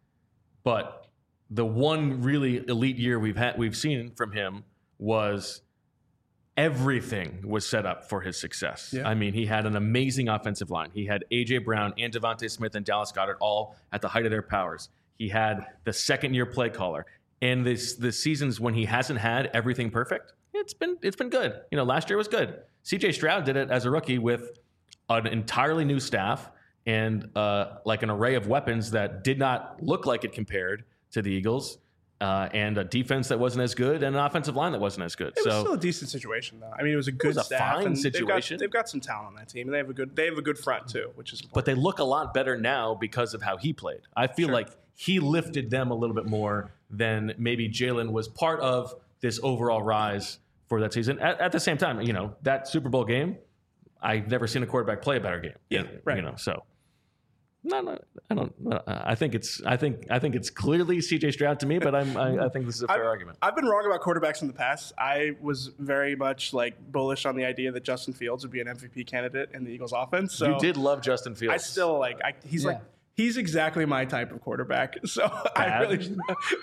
But the one really elite year we've had, we've seen from him was everything was set up for his success. Yeah. I mean, he had an amazing offensive line. He had A J Brown and Devontae Smith and Dallas Goedert all at the height of their powers. He had the second-year play caller. And this the seasons when he hasn't had everything perfect, it's been it's been good. You know, last year was good. C J Stroud did it as a rookie with an entirely new staff and uh, like an array of weapons that did not look like it compared to the Eagles, uh, and a defense that wasn't as good and an offensive line that wasn't as good. It was so still a decent situation, though. I mean, it was a good was a staff. fine and situation. They've got, they've got some talent on that team, and they have a good they have a good front too, which is important. but they look a lot better now because of how he played. I feel Sure. like he lifted them a little bit more than maybe Jalen was part of this overall rise for that season. At, at the same time, you know, that Super Bowl game, I've never seen a quarterback play a better game. Yeah, right. You know, so no, no, I don't. Uh, I think it's. I think. I think it's clearly C J Stroud to me, but I'm. I, I think this is a fair I've, argument. I've been wrong about quarterbacks in the past. I was very much like bullish on the idea that Justin Fields would be an M V P candidate in the Eagles offense. So you did love Justin Fields. I still like. I, he's Yeah. like. He's exactly my type of quarterback. So I Bad? really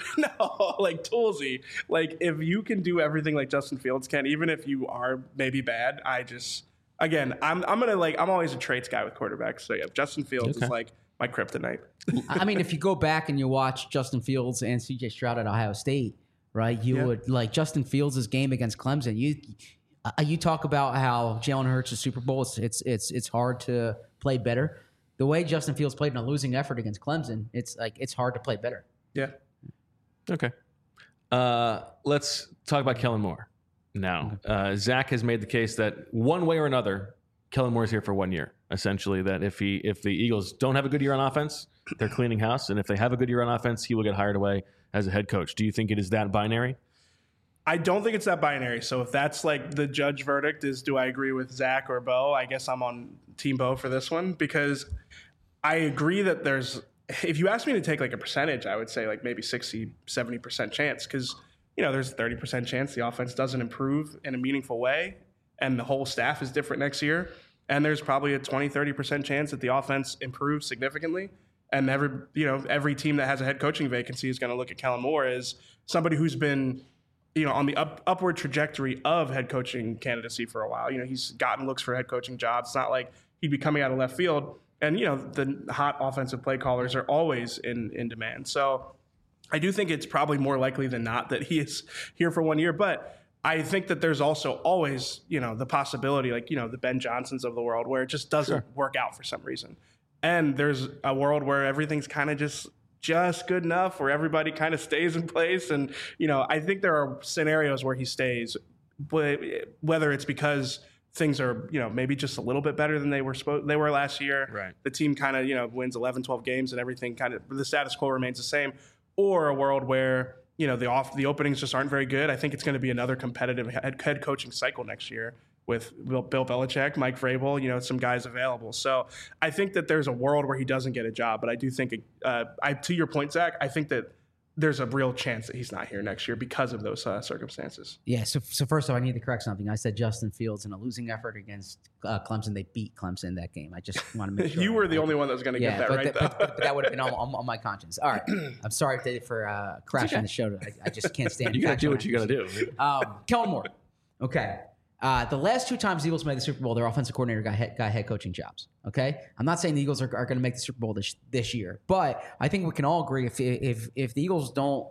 no like toolsy. Like if you can do everything like Justin Fields can, even if you are maybe bad, I just again I'm I'm gonna like I'm always a traits guy with quarterbacks. So yeah, Justin Fields Okay. is like my kryptonite. I mean, if you go back and you watch Justin Fields and C J Stroud at Ohio State, right? You Yeah. would like Justin Fields' game against Clemson. You uh, you talk about how Jalen Hurts' Super Bowl. It's it's it's it's hard to play better. The way Justin Fields played in a losing effort against Clemson, it's like it's hard to play better. Yeah. Okay. Uh, let's talk about Kellen Moore now. Uh, Zach has made the case that one way or another, Kellen Moore's here for one year. Essentially, that if he if the Eagles don't have a good year on offense, they're cleaning house, and if they have a good year on offense, he will get hired away as a head coach. Do you think it is that binary? I don't think it's that binary. So if that's like the judge verdict is, do I agree with Zach or Bo? I guess I'm on Team Bo for this one because I agree that there's, if you ask me to take like a percentage, I would say like maybe sixty, seventy percent chance because, you know, there's a thirty percent chance the offense doesn't improve in a meaningful way and the whole staff is different next year. And there's probably a twenty, thirty percent chance that the offense improves significantly. And every, you know, every team that has a head coaching vacancy is going to look at Kellen Moore as somebody who's been, you know, on the up, upward trajectory of head coaching candidacy for a while. You know, he's gotten looks for head coaching jobs. It's not like he'd be coming out of left field. And, you know, the hot offensive play callers are always in, in demand. So I do think it's probably more likely than not that he is here for one year. But I think that there's also always, you know, the possibility, like, you know, the Ben Johnsons of the world where it just doesn't Sure. work out for some reason. And there's a world where everything's kind of just just good enough where everybody kind of stays in place. And, you know, I think there are scenarios where he stays, but whether it's because things are, you know, maybe just a little bit better than they were supposed they were last year. Right. The team kind of, you know, wins eleven, twelve games and everything kind of the status quo remains the same, or a world where, you know, the off the openings just aren't very good. I think it's going to be another competitive head, head coaching cycle next year with Bill, Bill Belichick, Mike Vrabel, you know, some guys available. So I think that there's a world where he doesn't get a job, but I do think, uh, I to your point, Zach, I think that there's a real chance that he's not here next year because of those uh, circumstances. Yeah. So so first off, I need to correct something. I said Justin Fields in a losing effort against uh, Clemson. They beat Clemson that game. I just want to make sure. You were the only one that was going to Yeah, get that but, right, the- though. but, but, but that would have been on, on, on my conscience. All right. I'm sorry to, for uh, crashing okay. the show. I, I just can't stand. You got to do factual what you got to accuracy. do. Um, Kellen Moore. Okay. Uh, the last two times the Eagles made the Super Bowl, their offensive coordinator got head, got head coaching jobs. Okay, I'm not saying the Eagles are, are going to make the Super Bowl this this year, but I think we can all agree if if if the Eagles don't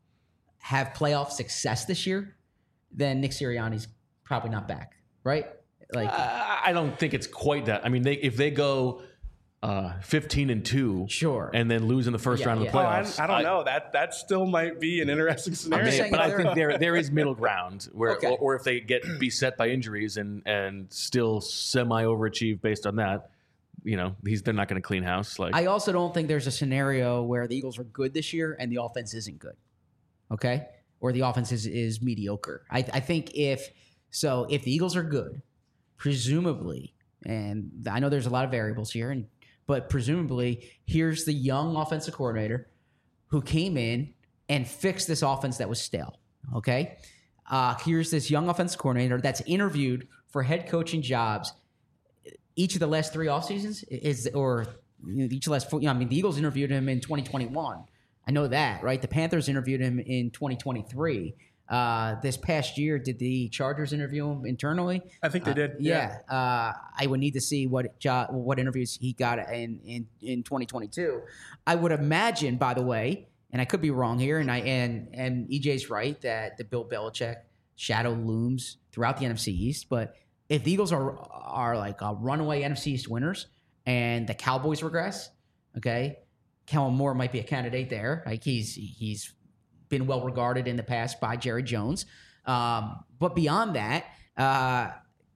have playoff success this year, then Nick Sirianni's probably not back, right? Like, Uh, I don't think it's quite that. I mean, they, if they go uh, fifteen and two, Sure. and then lose in the first Yeah, round yeah. of the Oh, I, playoffs, I don't know. That that still might be an interesting scenario. just Maybe, saying but if I they're- think there there is middle ground where, Okay. or, or if they get beset by injuries and and still semi overachieve based on that, you know, he's they're not going to clean house. Like I also don't think there's a scenario where the Eagles are good this year and the offense isn't good. Okay? Or the offense is, is mediocre. I, I think if so, if the Eagles are good, presumably, and I know there's a lot of variables here, and but presumably, here's the young offensive coordinator who came in and fixed this offense that was stale. Okay? Uh, here's this young offensive coordinator that's interviewed for head coaching jobs each of the last three off seasons is, or you know, each of the last four, you know, I mean, the Eagles interviewed him in twenty twenty-one. I know that, right? The Panthers interviewed him in twenty twenty-three. Uh, this past year, did the Chargers interview him internally? I think they Uh, did. yeah. Uh, I would need to see what jo- what interviews he got in, in, in twenty twenty-two. I would imagine, by the way, and I could be wrong here, and I and and E J's right that the Bill Belichick shadow looms throughout the N F C East. But if the Eagles are are like a runaway N F C East winners and the Cowboys regress, okay, Kellen Moore might be a candidate there. Like he's he's been well regarded in the past by Jerry Jones. Um, but beyond that, uh,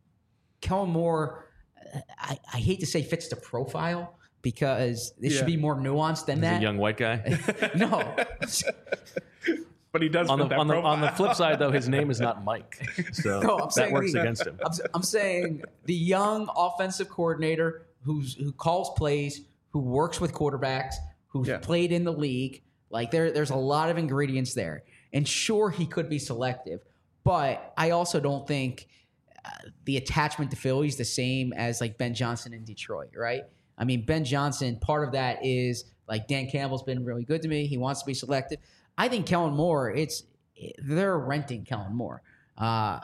Kellen Moore, I, I hate to say fits the profile because it Yeah. should be more nuanced than he's that. a young white guy. No. but he does On fit the that on the profile. on the flip side, though, his name is not Mike, so No, I'm that saying works the- against him. I'm, I'm saying the young offensive coordinator who's who calls plays, who works with quarterbacks, who's Yeah. played in the league. Like there, there's a lot of ingredients there. And sure, he could be selective, but I also don't think uh, the attachment to Philly is the same as like Ben Johnson in Detroit, right? I mean, Ben Johnson, part of that is like Dan Campbell's been really good to me. He wants to be selective. I think Kellen Moore, it's they're renting Kellen Moore, uh,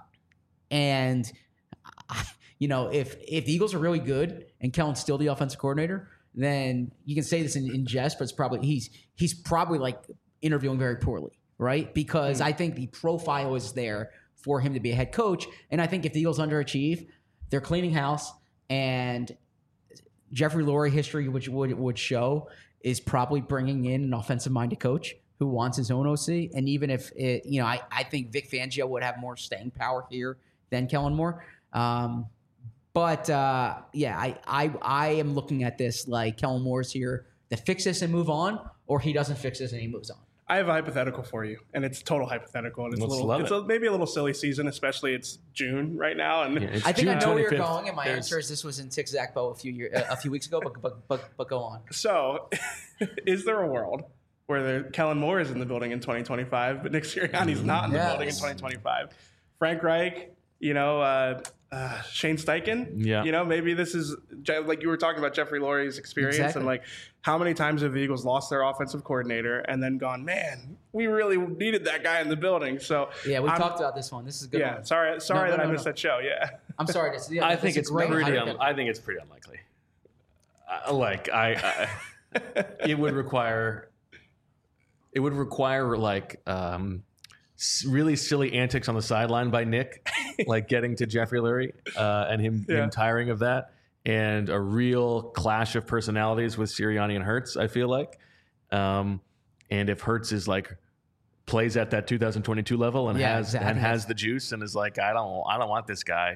and you know if if the Eagles are really good and Kellen's still the offensive coordinator, then you can say this in, in jest, but it's probably he's he's probably like interviewing very poorly, right? Because mm. I think the profile is there for him to be a head coach, and I think if the Eagles underachieve, they're cleaning house, and Jeffrey Lurie history, which would would show, is probably bringing in an offensive-minded coach who wants his own O C. And even if it, you know, I, I think Vic Fangio would have more staying power here than Kellen Moore. Um, but uh, yeah, I, I I am looking at this like Kellen Moore's here to fix this and move on, or he doesn't fix this and he moves on. I have a hypothetical for you, and it's total hypothetical, and it's Let's a little, love it's it. a, maybe a little silly season, especially it's June right now, and Yeah, it's I think June I know where you're twenty-fifth. going, and my There's- answer is this was in Tick Zach Bo a few year, uh, a few weeks ago. But but but, but go on. so is there a world where the, Kellen Moore is in the building in twenty twenty-five, but Nick Sirianni's not in the Yes. building in twenty twenty-five? Frank Reich, you know, uh, uh, Shane Steichen, Yeah. you know, maybe this is like you were talking about Jeffrey Lurie's experience Exactly. and like how many times have the Eagles lost their offensive coordinator and then gone, man, we really needed that guy in the building. So Yeah, we I'm- talked about this one. This is a good. Yeah, one. sorry, sorry no, that no, I missed no. that show. Yeah. I'm sorry. This, yeah, I this think is it's great. pretty. I- Un- I think it's pretty unlikely. Uh, like I, I it would require. It would require like um, s- really silly antics on the sideline by Nick, like getting to Jeffrey Lurie uh, and him, Yeah. him tiring of that, and a real clash of personalities with Sirianni and Hurts. I feel like, um, and if Hurts is like plays at that two thousand twenty-two level and Yeah, has exactly. and has the juice and is like, I don't, I don't want this guy.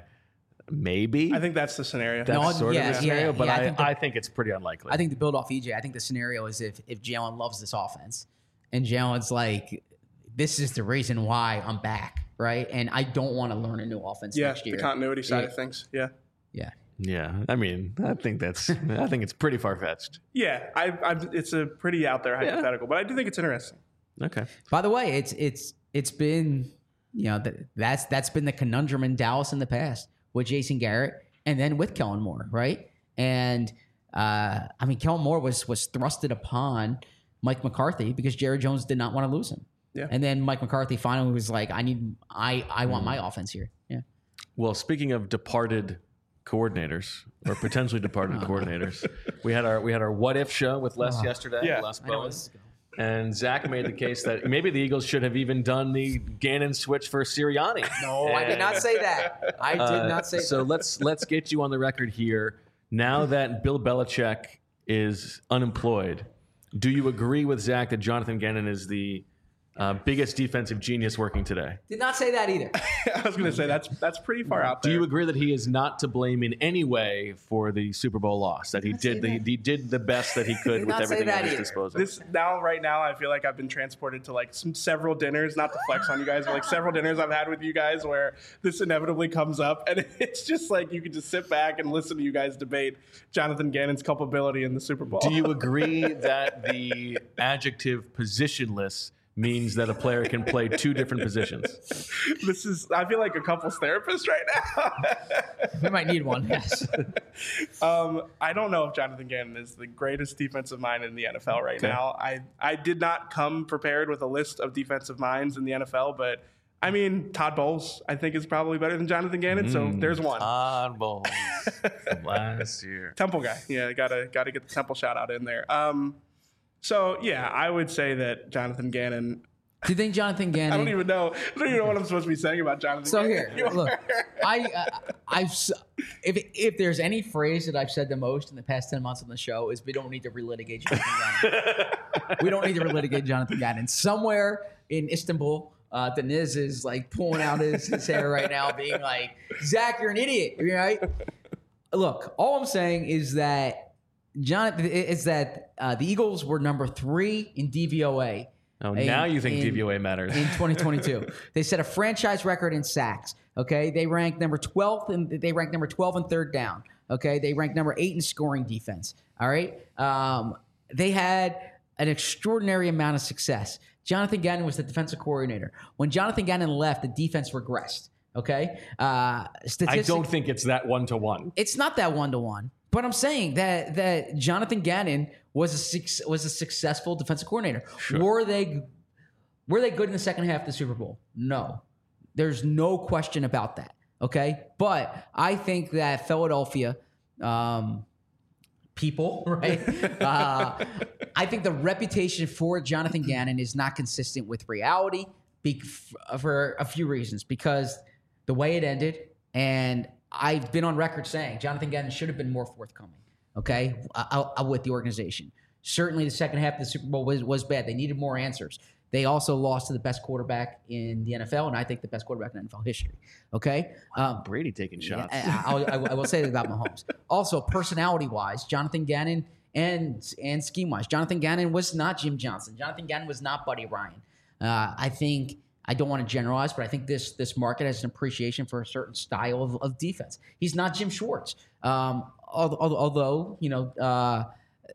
Maybe I think that's the scenario. that's No, sort yeah, of the scenario, yeah, but yeah, I I, think I, the- think it's pretty unlikely. I think to build off E J, I think the scenario is if if Jalen loves this offense, and Jalen's like, this is the reason why I'm back, right? And I don't want to learn a new offense yeah, next year. the continuity side Yeah. of things. Yeah. Yeah. Yeah, I mean, I think that's, I think it's pretty far fetched. Yeah, I, I, it's a pretty out there hypothetical, but I do think it's interesting. Okay. By the way, it's it's it's been you know that that's that's been the conundrum in Dallas in the past with Jason Garrett and then with Kellen Moore, right? And uh, I mean, Kellen Moore was was thrusted upon Mike McCarthy because Jerry Jones did not want to lose him. Yeah. And then Mike McCarthy finally was like, I need I I want Mm. my offense here. Yeah. Well, speaking of departed coordinators or potentially departed coordinators, we had our we had our what if show with Les yesterday. Yeah. Les I know Bowen. this is going. And Zach made the case that maybe the Eagles should have even done the Gannon switch for Sirianni. No, I did not say that. I did Uh, not say so that. let's let's get you on the record here. Now that Bill Belichick is unemployed, do you agree with Zach that Jonathan Gannon is the uh, biggest defensive genius working today? Did not say that either. I was going to say that's that's pretty far out Do there. you agree that he is not to blame in any way for the Super Bowl loss? That he not say did the, that. he did the best that he could Did with not say everything that at his either. disposal. This now, right now, I feel like I've been transported to like some several dinners, not to flex on you guys, but like several dinners I've had with you guys where this inevitably comes up, and it's just like you can just sit back and listen to you guys debate Jonathan Gannon's culpability in the Super Bowl. Do you agree that the adjective positionless means that a player can play two different positions? This is, I feel like a couples therapist right now. We might need one. Yes. um, I don't know if Jonathan Gannon is the greatest defensive mind in the N F L right Okay. now. I, I did not come prepared with a list of defensive minds in the N F L, but I mean, Todd Bowles, I think, is probably better than Jonathan Gannon, so there's one. Todd Bowles from last year. Temple guy. Yeah, gotta gotta get the Temple shout out in there. Um, so yeah, I would say that Jonathan Gannon. Do you think Jonathan Gannon? I don't even know. I don't even know what I'm supposed to be saying about Jonathan. So Gannon. here, look, I, uh, I've s- if if there's any phrase that I've said the most in the past ten months on the show is we don't need to relitigate Jonathan Gannon. We don't need to relitigate Jonathan Gannon. Somewhere in Istanbul, uh, Deniz is like pulling out his, his hair right now, being like, "Zach, you're an idiot," right? Look, all I'm saying is that Jonathan is that uh, the Eagles were number three in D V O A Oh, in- now you think in- D V O A matters. in twenty twenty-two. They set a franchise record in sacks. Okay, they ranked number twelfth and they ranked number twelve in third down. Okay, they ranked number eight in scoring defense. All right, um, they had an extraordinary amount of success. Jonathan Gannon was the defensive coordinator. When Jonathan Gannon left, the defense regressed. Okay, uh, I don't think it's that one to one. It's not that one to one. But I'm saying that that Jonathan Gannon was a suc- was a successful defensive coordinator. Sure. Were they were they good in the second half of the Super Bowl? No. There's no question about that. Okay? But I think that Philadelphia um, people, right? uh, I think the reputation for Jonathan Gannon is not consistent with reality be- for a few reasons. Because the way it ended, and I've been on record saying Jonathan Gannon should have been more forthcoming, okay, uh, uh, with the organization. Certainly the second half of the Super Bowl was, was bad. They needed more answers. They also lost to the best quarterback in the N F L, and I think the best quarterback in N F L history, okay? Um, Brady taking shots. I, I, I, I will say that about Mahomes. Also, personality-wise, Jonathan Gannon and, and scheme-wise, Jonathan Gannon was not Jim Johnson. Jonathan Gannon was not Buddy Ryan. Uh, I think... I don't want to generalize, but I think this this market has an appreciation for a certain style of, of defense. He's not Jim Schwartz. Um, although, although, you know, uh,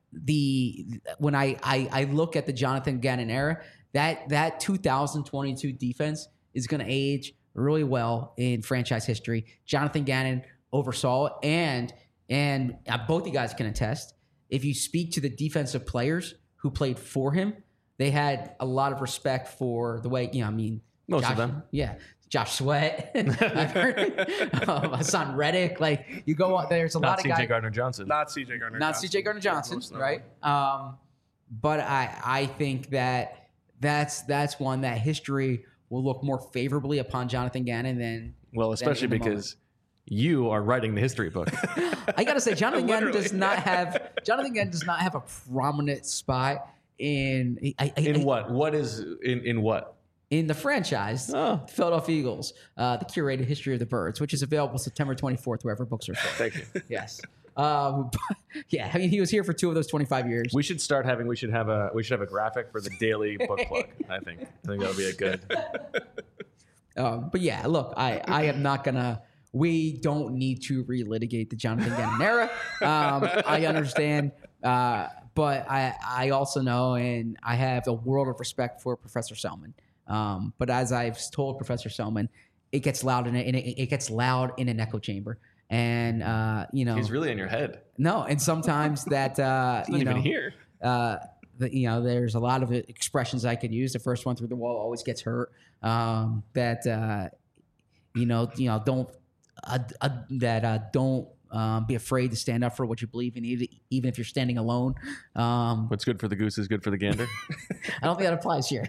the when I, I I look at the Jonathan Gannon era, that that two thousand twenty-two defense is going to age really well in franchise history. Jonathan Gannon oversaw it, and and uh, both you guys can attest. If you speak to the defensive players who played for him, they had a lot of respect for the way, you know, I mean, Most Josh, of them. Yeah. Josh Sweat, I've heard, um, Hassan Reddick. Like, you go on, there's a Not lot of C J guys. Gardner Johnson. Not C J Gardner Not Johnson. C J Gardner Johnson, Most right? Um, but I, I think that that's that's one that history will look more favorably upon Jonathan Gannon than. Well, especially than in the because you are writing the history book. I gotta say, Jonathan Gannon does Literally. not have Jonathan Gannon does not have a prominent spot in I, I, In I- what? What is in in what? in the franchise, Oh. Philadelphia Eagles, uh, the curated history of the birds, which is available September twenty-fourth, wherever books are sold. Thank you. Yes. Um, yeah, I mean, he was here for two of those twenty-five years. We should start having. We should have a. We should have a graphic for the daily book plug. I think. I think that'll be a good. Um, but yeah, look, I, I am not gonna. We don't need to relitigate the Jonathan Gannon era. Um, I understand, uh, but I I also know, and I have a world of respect for Professor Selman. Um, but as I've told Professor Selman, it gets loud in a, in a, it gets loud in an echo chamber, and uh, you know, He's really in your head. no, and sometimes that uh, Not you even know, here. uh, the, you know, there's a lot of expressions I could use. The first one through the wall always gets hurt. Um, that uh, you know, you know, don't uh, uh, that uh, don't um, be afraid to stand up for what you believe in, even even if you're standing alone. Um, What's good for the goose is good for the gander. I don't think that applies here.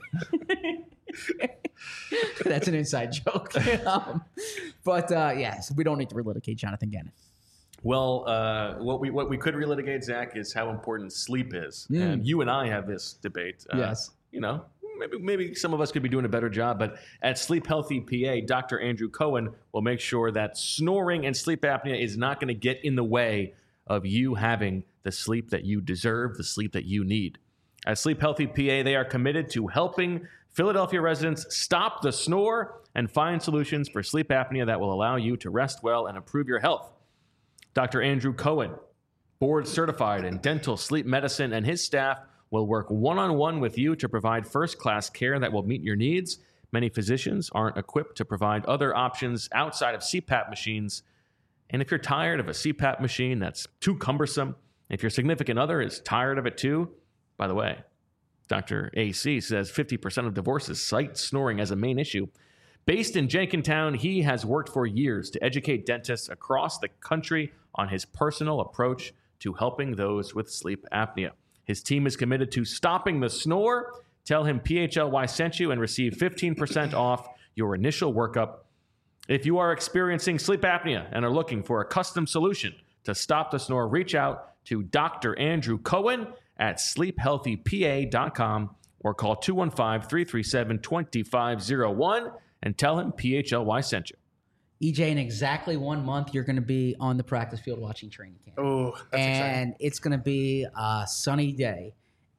That's an inside joke. um, but uh, yes, we don't need to relitigate Jonathan Gannon. Well, uh, what we what we could relitigate, Zach, is how important sleep is, Mm. and you and I have this debate. Uh, Yes. You know, maybe maybe some of us could be doing a better job, but at Sleep Healthy P A, Doctor Andrew Cohen will make sure that snoring and sleep apnea is not going to get in the way of you having the sleep that you deserve, the sleep that you need. At Sleep Healthy P A, they are committed to helping Philadelphia residents stop the snore and find solutions for sleep apnea that will allow you to rest well and improve your health. Doctor Andrew Cohen, board certified in dental sleep medicine, and his staff will work one-on-one with you to provide first-class care that will meet your needs. Many physicians aren't equipped to provide other options outside of C PAP machines. And if you're tired of a C PAP machine that's too cumbersome, if your significant other is tired of it too, by the way, Doctor A C says fifty percent of divorces cite snoring as a main issue. Based in Jenkintown, he has worked for years to educate dentists across the country on his personal approach to helping those with sleep apnea. His team is committed to stopping the snore. Tell him P H L Y sent you and receive fifteen percent off your initial workup. If you are experiencing sleep apnea and are looking for a custom solution to stop the snore, reach out to Doctor Andrew Cohen at sleep healthy p a dot com or call two one five, three three seven, two five zero one and tell him P H L Y sent you. E J, in exactly one month, you're going to be on the practice field watching training camp. Oh, that's exciting. and it's going to be a sunny day.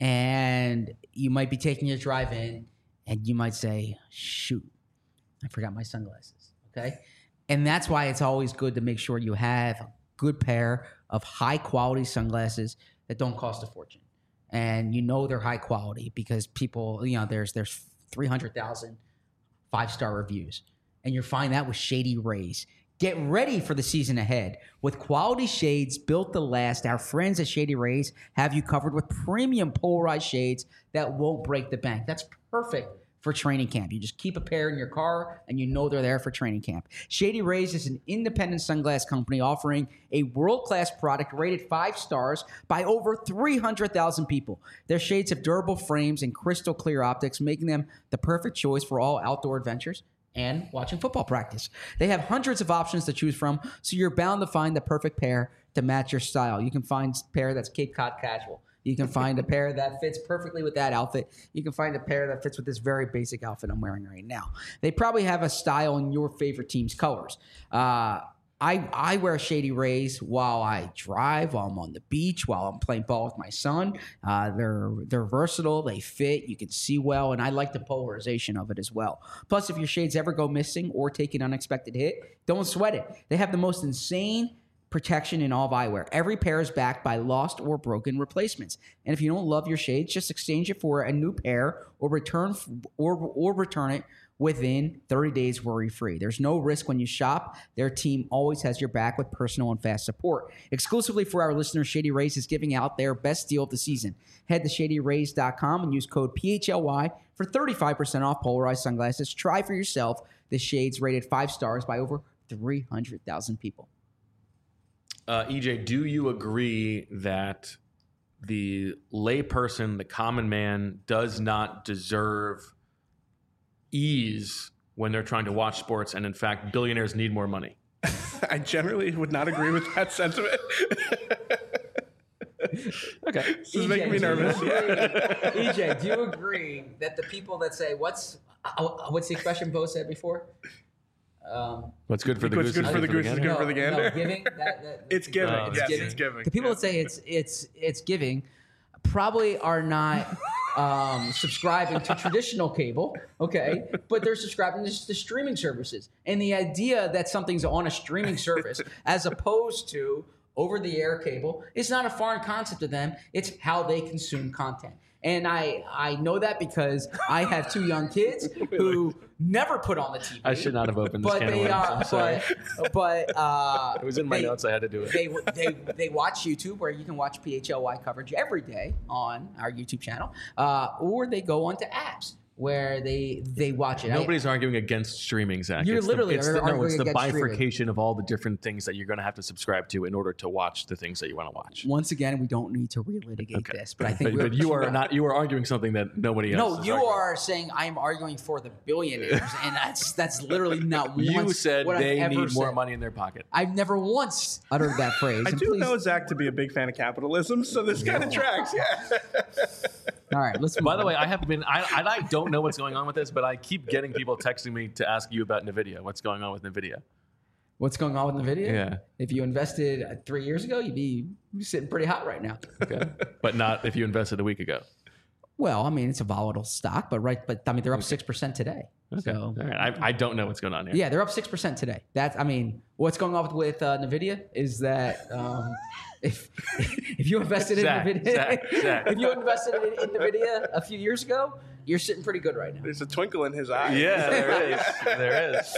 and you might be taking your drive in, and you might say, shoot, I forgot my sunglasses, okay? And that's why it's always good to make sure you have a good pair of high-quality sunglasses that don't cost a fortune. And you know they're high quality because people, you know, there's there's three hundred thousand five-star reviews. And you'll find that with Shady Rays. Get ready for the season ahead. With quality shades built to last, our friends at Shady Rays have you covered with premium polarized shades that won't break the bank. That's perfect for training camp. You just keep a pair in your car and you know they're there for training camp. Shady Rays is an independent sunglass company offering a world-class product rated five stars by over three hundred thousand people. Their shades have durable frames and crystal clear optics, making them the perfect choice for all outdoor adventures and watching football practice. They have hundreds of options to choose from, so you're bound to find the perfect pair to match your style. You can find a pair that's Cape Cod casual. You can find a pair that fits perfectly with that outfit. You can find a pair that fits with this very basic outfit I'm wearing right now. They probably have a style in your favorite team's colors. Uh, I, I wear Shady Rays while I drive, while I'm on the beach, while I'm playing ball with my son. Uh, they're they're versatile. They fit. You can see well, and I like the polarization of it as well. Plus, if your shades ever go missing or take an unexpected hit, don't sweat it. They have the most insane protection in all of eyewear. Every pair is backed by lost or broken replacements. And if you don't love your shades, just exchange it for a new pair or return or or return it within thirty days worry-free. There's no risk when you shop. Their team always has your back with personal and fast support. Exclusively for our listeners, Shady Rays is giving out their best deal of the season. Head to shady rays dot com and use code P H L Y for thirty-five percent off polarized sunglasses. Try for yourself the shades rated five stars by over three hundred thousand people. Uh, E J, do you agree that the layperson, the common man, does not deserve ease when they're trying to watch sports, and in fact, billionaires need more money? I generally would not agree with that sentiment. Okay. This is making me nervous. Yeah. E J, do you agree that the people that say, what's uh, what's the expression Bo said before? Um, What's good for the What's goose good is for the good goose is gander? good for the gander. No, giving. That, that, It's giving. Uh, yes, giving. it's giving. The people Yeah. that say it's it's it's giving probably are not um, subscribing to traditional cable, okay? But they're subscribing to the streaming services. And the idea that something's on a streaming service as opposed to over-the-air cable is not a foreign concept to them. It's how they consume content. And I, I know that because I have two young kids who never put on the T V. I should not have opened this But can of they worms. are, I'm sorry. but, but uh, It was in my they- notes. I had to do it. they, they they watch YouTube, where you can watch P H L Y coverage every day on our YouTube channel, uh, or they go onto apps where they they watch it. I- Nobody's arguing against streaming, Zach. You're It's literally the, it's the, no, arguing it's the against streaming. bifurcation of all the different things that you're going to have to subscribe to in order to watch the things that you want to watch. once again, we don't need to relitigate Okay. this, but I think But, we're, but you are not. You are arguing something that nobody else. No, is you arguing. are saying I am arguing for the billionaires, and that's that's literally not once You said what they I've ever need more said. money in their pocket. I've never once uttered that phrase. I and do please- know Zach to be a big fan of capitalism, so this kind of tracks. Yeah. All right, let's. By move the on. way, I have been. I, I I don't know what's going on with this, but I keep getting people texting me to ask you about NVIDIA. What's going on with NVIDIA? What's going on with NVIDIA? Yeah. If you invested uh, three years ago, you'd be sitting pretty hot right now. Okay, but not if you invested a week ago. Well, I mean, it's a volatile stock, but right, but I mean, they're up six percent today. Okay, So all right. I, I don't know what's going on here. yeah, they're up six percent today. That's, I mean, what's going on with, with uh, Nvidia is that um, if if you invested in Zach, Nvidia, Zach, Zach. if you invested in, in Nvidia a few years ago, you're sitting pretty good right now. There's a twinkle in his eye. Yeah, there is. There is.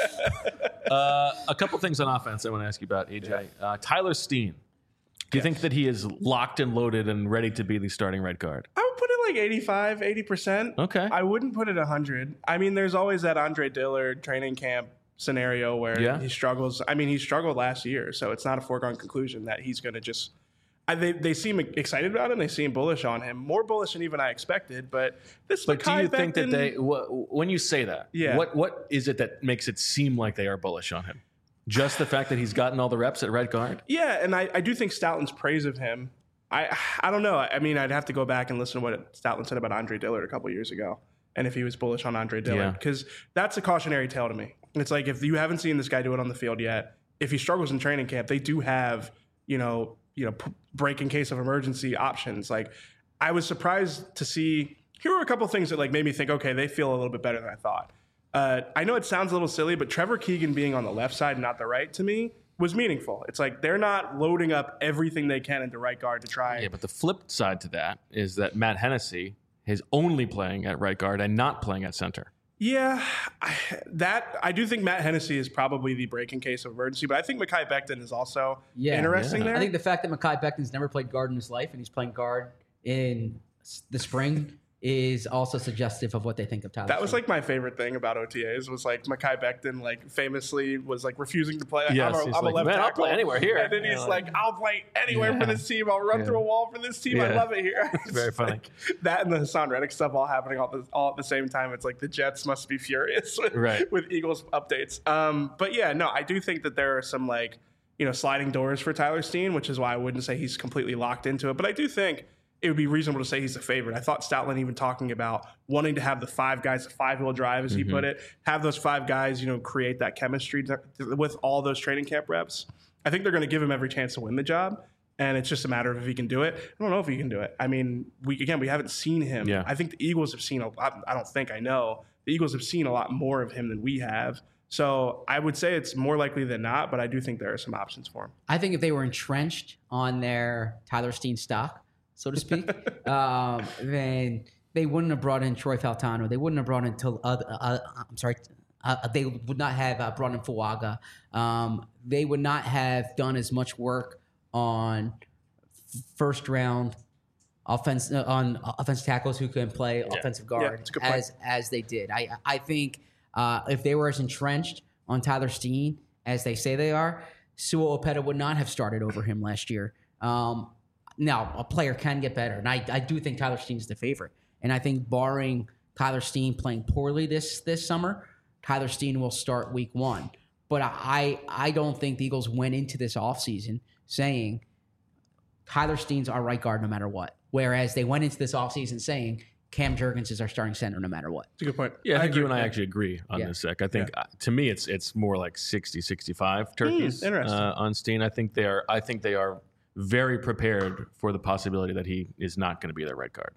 Uh, a couple things on offense I want to ask you about, A J. Uh, Tyler Steen. Do you think that he is locked and loaded and ready to be the starting right guard? I would put it like eighty-five, eighty percent. Okay. I wouldn't put it one hundred. I mean, there's always that Andre Dillard training camp scenario where Yeah. he struggles. I mean, he struggled last year, so it's not a foregone conclusion that he's going to just. I, they, they seem excited about him. They seem bullish on him, more bullish than even I expected. But this, But do Mekhi you think that Becton- they, wh- when you say that, Yeah. what what is it that makes it seem like they are bullish on him? Just the fact that he's gotten all the reps at right guard? Yeah, and I, I do think Stoutland's praise of him. I I don't know. I mean, I'd have to go back and listen to what Stoutland said about Andre Dillard a couple years ago, and if he was bullish on Andre Yeah. Dillard, because that's a cautionary tale to me. It's like if you haven't seen this guy do it on the field yet, if he struggles in training camp, they do have you know you know p- break in case of emergency options. Like I was surprised to see. Here were a couple things that like made me think, okay, they feel a little bit better than I thought. Uh, I know it sounds a little silly, but Trevor Keegan being on the left side and not the right to me was meaningful. It's like they're not loading up everything they can into right guard to try. Yeah, but the flip side to that is that Matt Hennessy is only playing at right guard and not playing at center. Yeah, I, that I do think Matt Hennessy is probably the breaking case of emergency, but I think Mekhi Becton is also Yeah. interesting Yeah. there. I think the fact that Mekhi Becton's never played guard in his life and he's playing guard in s- the spring is also suggestive of what they think of Tyler. that was Stone. like my favorite thing about O T As was like Mekhi Becton like famously was like refusing to play. Like, Yes, I'm a, he's I'm a like, left "Man, I'll tackle." play anywhere here. And then You he's know, like, I'll play anywhere Yeah. for this team. I'll run Yeah. through a wall for this team. I Yeah. love it here. It's very funny. That and the Hassan Reddick stuff all happening all, the, all at the same time. It's like the Jets must be furious with, Right. with Eagles updates. Um, but yeah, no, I do think that there are some like, you know, sliding doors for Tyler Steen, which is why I wouldn't say he's completely locked into it. But I do think it would be reasonable to say he's the favorite. I thought Stoutland even talking about wanting to have the five guys, the five-wheel drive, as he put it, have those five guys, you know, create that chemistry to, with all those training camp reps. I think they're going to give him every chance to win the job, and it's just a matter of if he can do it. I don't know if he can do it. I mean, we again, we haven't seen him. Yeah. I think the Eagles have seen a lot. I don't think I know. The Eagles have seen a lot more of him than we have. So I would say it's more likely than not, but I do think there are some options for him. I think if they were entrenched on their Tyler Steen stock, so to speak, um, then they wouldn't have brought in Troy Faltano. They wouldn't have brought in till uh, uh, I'm sorry. Uh, they would not have uh, brought in Fuaga. Um, they would not have done as much work on first round offense uh, on offensive tackles who can play offensive guard it's a good point. as as they did. I I think uh, if they were as entrenched on Tyler Steen as they say they are, Sua Opeta would not have started over him last year. Um, now, a player can get better, and I, I do think Tyler Steen's the favorite. And I think barring Tyler Steen playing poorly this this summer, Tyler Steen will start week one. But I I don't think the Eagles went into this offseason saying Tyler Steen's our right guard no matter what. Whereas they went into this offseason saying Cam Jurgens is our starting center no matter what. It's a good point. Yeah, I think agree you and with I that. actually agree on Yeah. this, Zach. I think uh, to me it's it's more like sixty, sixty-five turkeys Hmm, interesting. uh, on Steen. I think they are I think they are very prepared for the possibility that he is not going to be their right guard.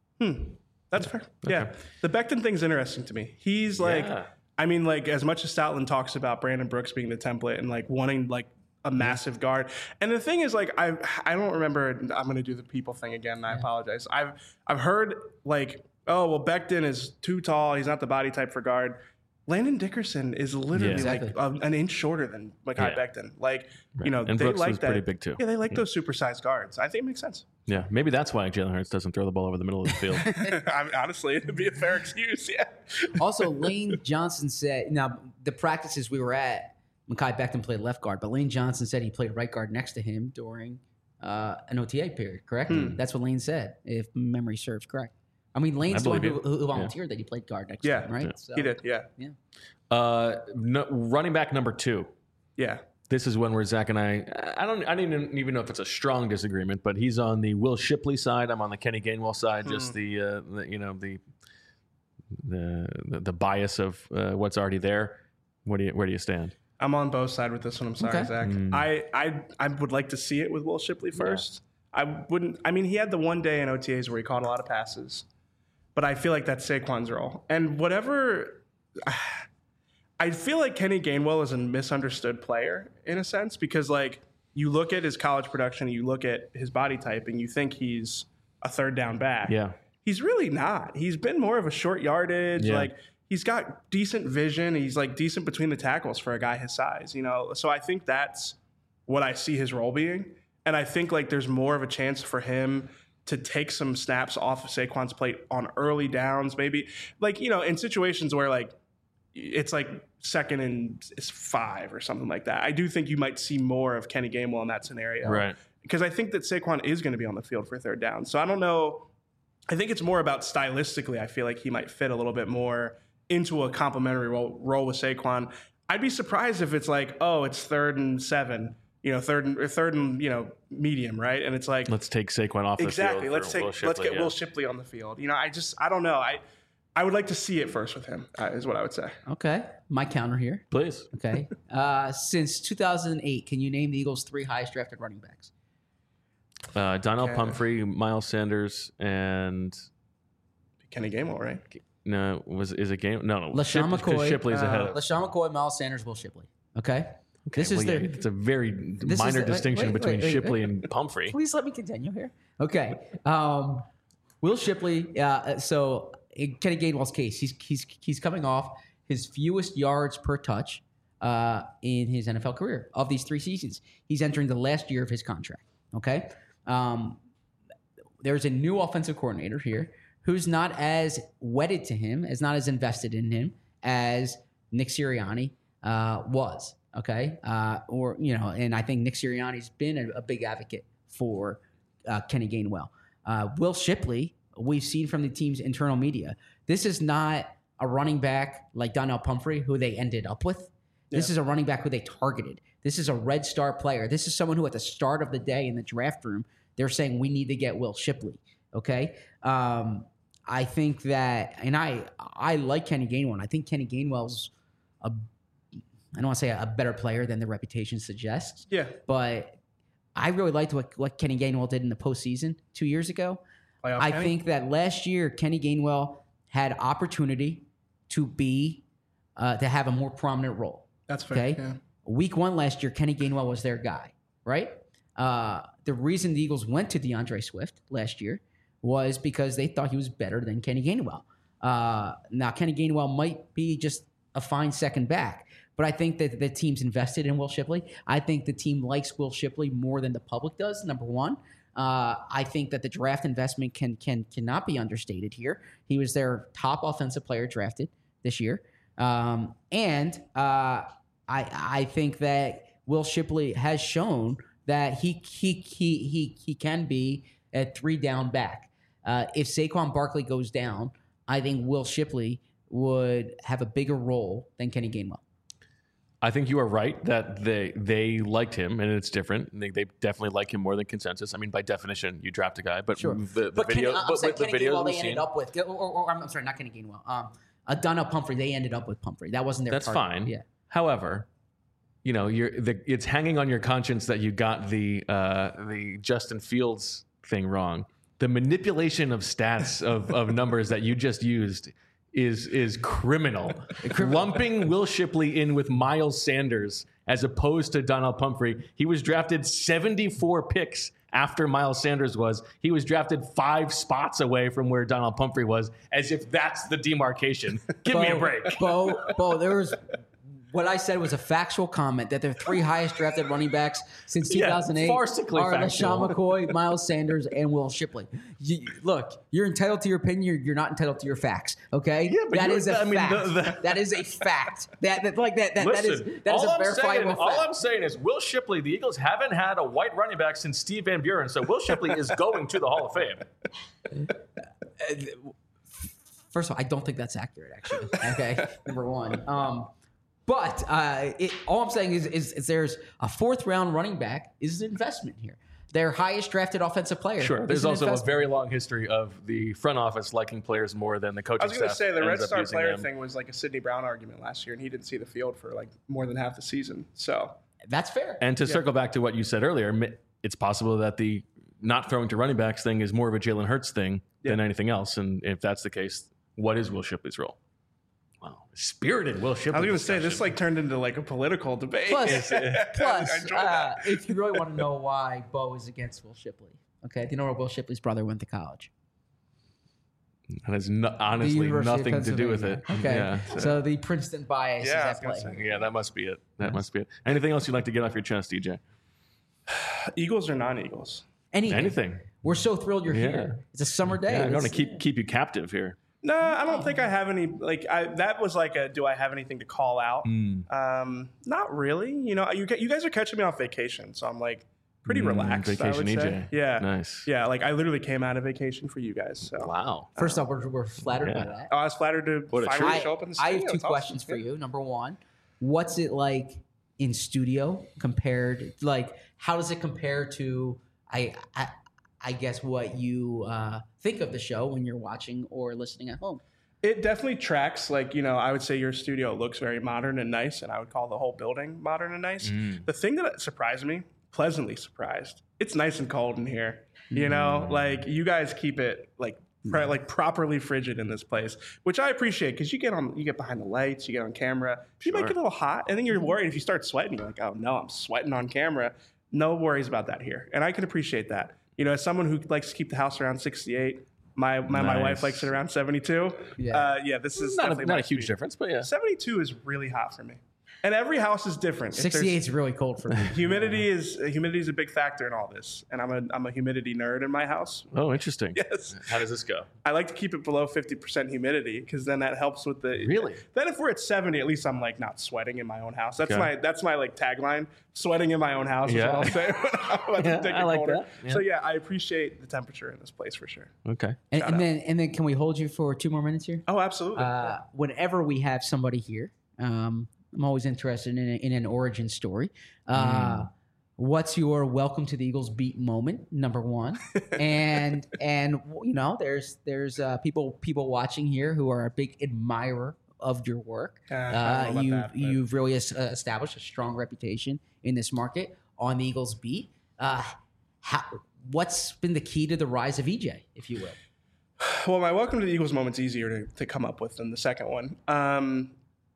That's fair. Yeah. The Becton thing's interesting to me. He's like, Yeah. I mean, like, as much as Stoutland talks about Brandon Brooks being the template and like wanting like a massive guard. And the thing is, like, I I don't remember, I'm going to do the people thing again, and I apologize. I've I've heard like, oh, well, Becton is too tall. He's not the body type for guard. Landon Dickerson is literally Yeah. Exactly. like um, an inch shorter than Mekhi Yeah. Becton. Like, you know, And they Brooks like was that. pretty big, too. Yeah, they like those supersized guards. I think it makes sense. Yeah, maybe that's why Jalen Hurts doesn't throw the ball over the middle of the field. I mean, honestly, it'd be a fair excuse. Yeah. Also, Lane Johnson said, now the practices we were at, Mekhi Becton played left guard, but Lane Johnson said he played right guard next to him during uh, an O T A period, correct? That's what Lane said, if memory serves correct. I mean, Lane's the one believe who, you. who volunteered that he played guard next Yeah. to him, right? Yeah. So, He did. Yeah. uh, no, running back number two. Yeah. This is one where Zach and I, I don't, I don't even, even know if it's a strong disagreement, but he's on the Will Shipley side. I'm on the Kenny Gainwell side. Just the, uh, the, you know, the, the, the, the bias of uh, what's already there. What do you, where do you stand? I'm on both sides with this one. I'm sorry, Okay. Zach. I, I I would like to see it with Will Shipley first. I wouldn't. I mean, he had the one day in O T As where he caught a lot of passes, but I feel like that's Saquon's role. And whatever, I feel like Kenny Gainwell is a misunderstood player in a sense because like you look at his college production, you look at his body type, and you think he's a third down back. Yeah. He's really not. He's been more of a short yardage. Yeah. Like he's got decent vision. He's like decent between the tackles for a guy his size, you know? So I think that's what I see his role being. And I think like there's more of a chance for him to take some snaps off of Saquon's plate on early downs, maybe like, you know, in situations where like it's like second and it's five or something like that. I do think you might see more of Kenny Gainwell in that scenario. Right. Because I think that Saquon is going to be on the field for third down. So I don't know. I think it's more about stylistically. I feel like he might fit a little bit more into a complementary role, role with Saquon. I'd be surprised if it's like, oh, it's third and seven, you know, third and or third and you know medium, right? And it's like Let's take Saquon off the exactly. field. Let's for take Will let's Shipley, get yeah. Will Shipley on the field. You know, I just I don't know. I I would like to see it first with him. Uh, is what I would say. Okay. My counter here. Please. Okay. Uh, since two thousand eight, can you name the Eagles' three highest drafted running backs? Uh, Donnell Okay. Pumphrey, Miles Sanders, and Kenny Gainwell, right? no, was is it game? No, no. LaShawn Ship- 'cause McCoy, Shipley's uh, ahead of. LaShawn McCoy, Miles Sanders, Will Shipley. Okay. This is well, their. yeah, it's a very is minor the- wait, distinction wait, between wait, wait, Shipley wait. and Pumphrey. Please let me continue here. Okay. Um, Will Shipley. Uh, so in Kenny Gainwell's case, he's he's he's coming off his fewest yards per touch uh, in his N F L career of these three seasons. He's entering the last year of his contract. Okay. Um, there's a new offensive coordinator here who's not as wedded to him, as not as invested in him as Nick Sirianni uh, was. Okay. Uh, or, you know, and I think Nick Sirianni's been a, a big advocate for uh, Kenny Gainwell. Uh, Will Shipley, we've seen from the team's internal media, this is not a running back like Donnell Pumphrey, who they ended up with. This is a running back who they targeted. This is a red star player. This is someone who at the start of the day in the draft room, they're saying we need to get Will Shipley. Okay. Um, I think that, and I I like Kenny Gainwell. I think Kenny Gainwell's a, I don't want to say a better player than the reputation suggests, Yeah. but I really liked what, what Kenny Gainwell did in the postseason two years ago. Playoff I Kenny? think that last year Kenny Gainwell had opportunity to be uh, to have a more prominent role. That's fair. Okay. Yeah. Week one last year, Kenny Gainwell was their guy, right? Uh, the reason the Eagles went to DeAndre Swift last year was because they thought he was better than Kenny Gainwell. Uh, now, Kenny Gainwell might be just a fine second back, but I think that the team's invested in Will Shipley. I think the team likes Will Shipley more than the public does, number one. Uh, I think that the draft investment can can cannot be understated here. He was their top offensive player drafted this year. Um, and uh, I I think that Will Shipley has shown that he he he he he can be a three down back. Uh, if Saquon Barkley goes down, I think Will Shipley would have a bigger role than Kenny Gainwell. I think you are right that they they liked him, and it's different. They, they definitely like him more than consensus. I mean, by definition, you draft a guy, but Sure. the, the but video, Kenny, I'm but saying with the Kenny videos Gainwell, we've they seen, ended up with, or, or, or I'm sorry, not Kenny Gainwell. Um, uh, Donnell Pumphrey, they ended up with Pumphrey. That wasn't their. that's target. fine. Yeah. However, you know, you're the, it's hanging on your conscience that you got the uh, the Justin Fields thing wrong. The manipulation of stats of, of numbers that you just used is is criminal. Lumping Will Shipley in with Miles Sanders as opposed to Donnell Pumphrey. He was drafted seventy-four picks after Miles Sanders was. He was drafted five spots away from where Donnell Pumphrey was, as if that's the demarcation. Give me a break. Bo, Bo, there was what I said was a factual comment that their three highest drafted running backs since two thousand eight Yeah, farcically are factual. LaShawn McCoy, Miles Sanders, and Will Shipley. You, look, you're entitled to your opinion. You're, you're not entitled to your facts. Okay, Yeah, but that you- is a I mean, fact. the- the- that is a fact. That, that like that that, that is Listen, that is all, a I'm saying, verifiable all fact. I'm saying is Will Shipley, the Eagles haven't had a white running back since Steve Van Buren, so Will Shipley is going to the Hall of Fame. First of all, I don't think that's accurate, actually. Okay, number one. Um, but uh, it, all I'm saying is, is, is there's a fourth round running back is an investment here. Their highest drafted offensive player. Sure. is There's an also a investment. very long history of the front office liking players more than the coaching I was going to staff say the Red ends up Star using player them. thing was like a Sidney Brown argument last year, and he didn't see the field for like more than half the season. So That's fair. And to circle back to what you said earlier, mi- it's possible that the not throwing to running backs thing is more of a Jalen Hurts thing than Yeah. anything else. And if that's the case, what is Will Shipley's role? Wow. Spirited Will Shipley. I was going to say this discussion. like turned into like a political debate. Plus, I plus enjoyed uh, that. if you really want to know why Bo is against Will Shipley, okay, do you know where Will Shipley's brother went to college? That has no, The honestly University of nothing to do with it. Pennsylvania. Okay, Yeah. so the Princeton bias Yeah, I is was at gonna play. say. Yeah, that must be it. That must be it. Anything else you'd like to get off your chest, D J? Eagles or non-Eagles? Anything. Anything. We're so thrilled you're Yeah. here. It's a summer day. Yeah, I'm going to It's- keep keep you captive here. No, I don't think I have any. Like I, that was like a. Do I have anything to call out? Um, not really. You know, you you guys are catching me off vacation, so I'm like pretty Mm, relaxed. I vacation would E J. say. Yeah. Nice. Yeah, like I literally came out of vacation for you guys. So Wow. First off, we're, we're flattered Yeah. by that. Oh, I was flattered to What a finally treat. show up in the I studio. have two It's awesome. questions for you. Number one, what's it like in studio compared? Like, how does it compare to? I I, I guess what you uh, think of the show when you're watching or listening at home. It definitely tracks. Like, you know, I would say your studio looks very modern and nice, and I would call the whole building modern and nice. Mm. The thing that surprised me, pleasantly surprised, it's nice and cold in here. You know, like you guys keep it like Pro- like properly frigid in this place, which I appreciate because you get on, you get behind the lights, you get on camera. You might get a little hot, and then you're worried if you start sweating. You're like, oh no, I'm sweating on camera. No worries about that here, and I can appreciate that. You know, as someone who likes to keep the house around sixty-eight, my my, Nice. my wife likes it around seventy-two. Yeah. uh, yeah. This is Not a, definitely not my a huge speed. difference, but yeah. seventy-two is really hot for me, and every house is different. If there's- sixty-eight is really cold for me. Humidity is humidity is a big factor in all this, and I'm a I'm a humidity nerd in my house. Oh, interesting. Yes. How does this go? I like to keep it below fifty percent humidity because then that helps with the. Really? Then if we're at seventy, at least I'm like not sweating in my own house. That's Okay. my that's my like tagline. Sweating in my own house is Yeah. what I'll say when I'm about Yeah, to take I it like colder. that. Yeah. So yeah, I appreciate the temperature in this place for sure. Okay. And, Shout and out. then and then can we hold you for two more minutes here? Oh, absolutely. Uh, whenever we have somebody here, um, I'm always interested in, a, in an origin story. Uh, What's your welcome to the Eagles beat moment? Number one, and and you know, there's there's uh, people people watching here who are a big admirer of your work. Uh, I don't know Uh, about you that, but- you've really es- uh, established a strong reputation in this market on the Eagles beat. Uh, how, what's been the key to the rise of E J, if you will? Well, my welcome to the Eagles moment's easier to, to come up with than the second one. Um,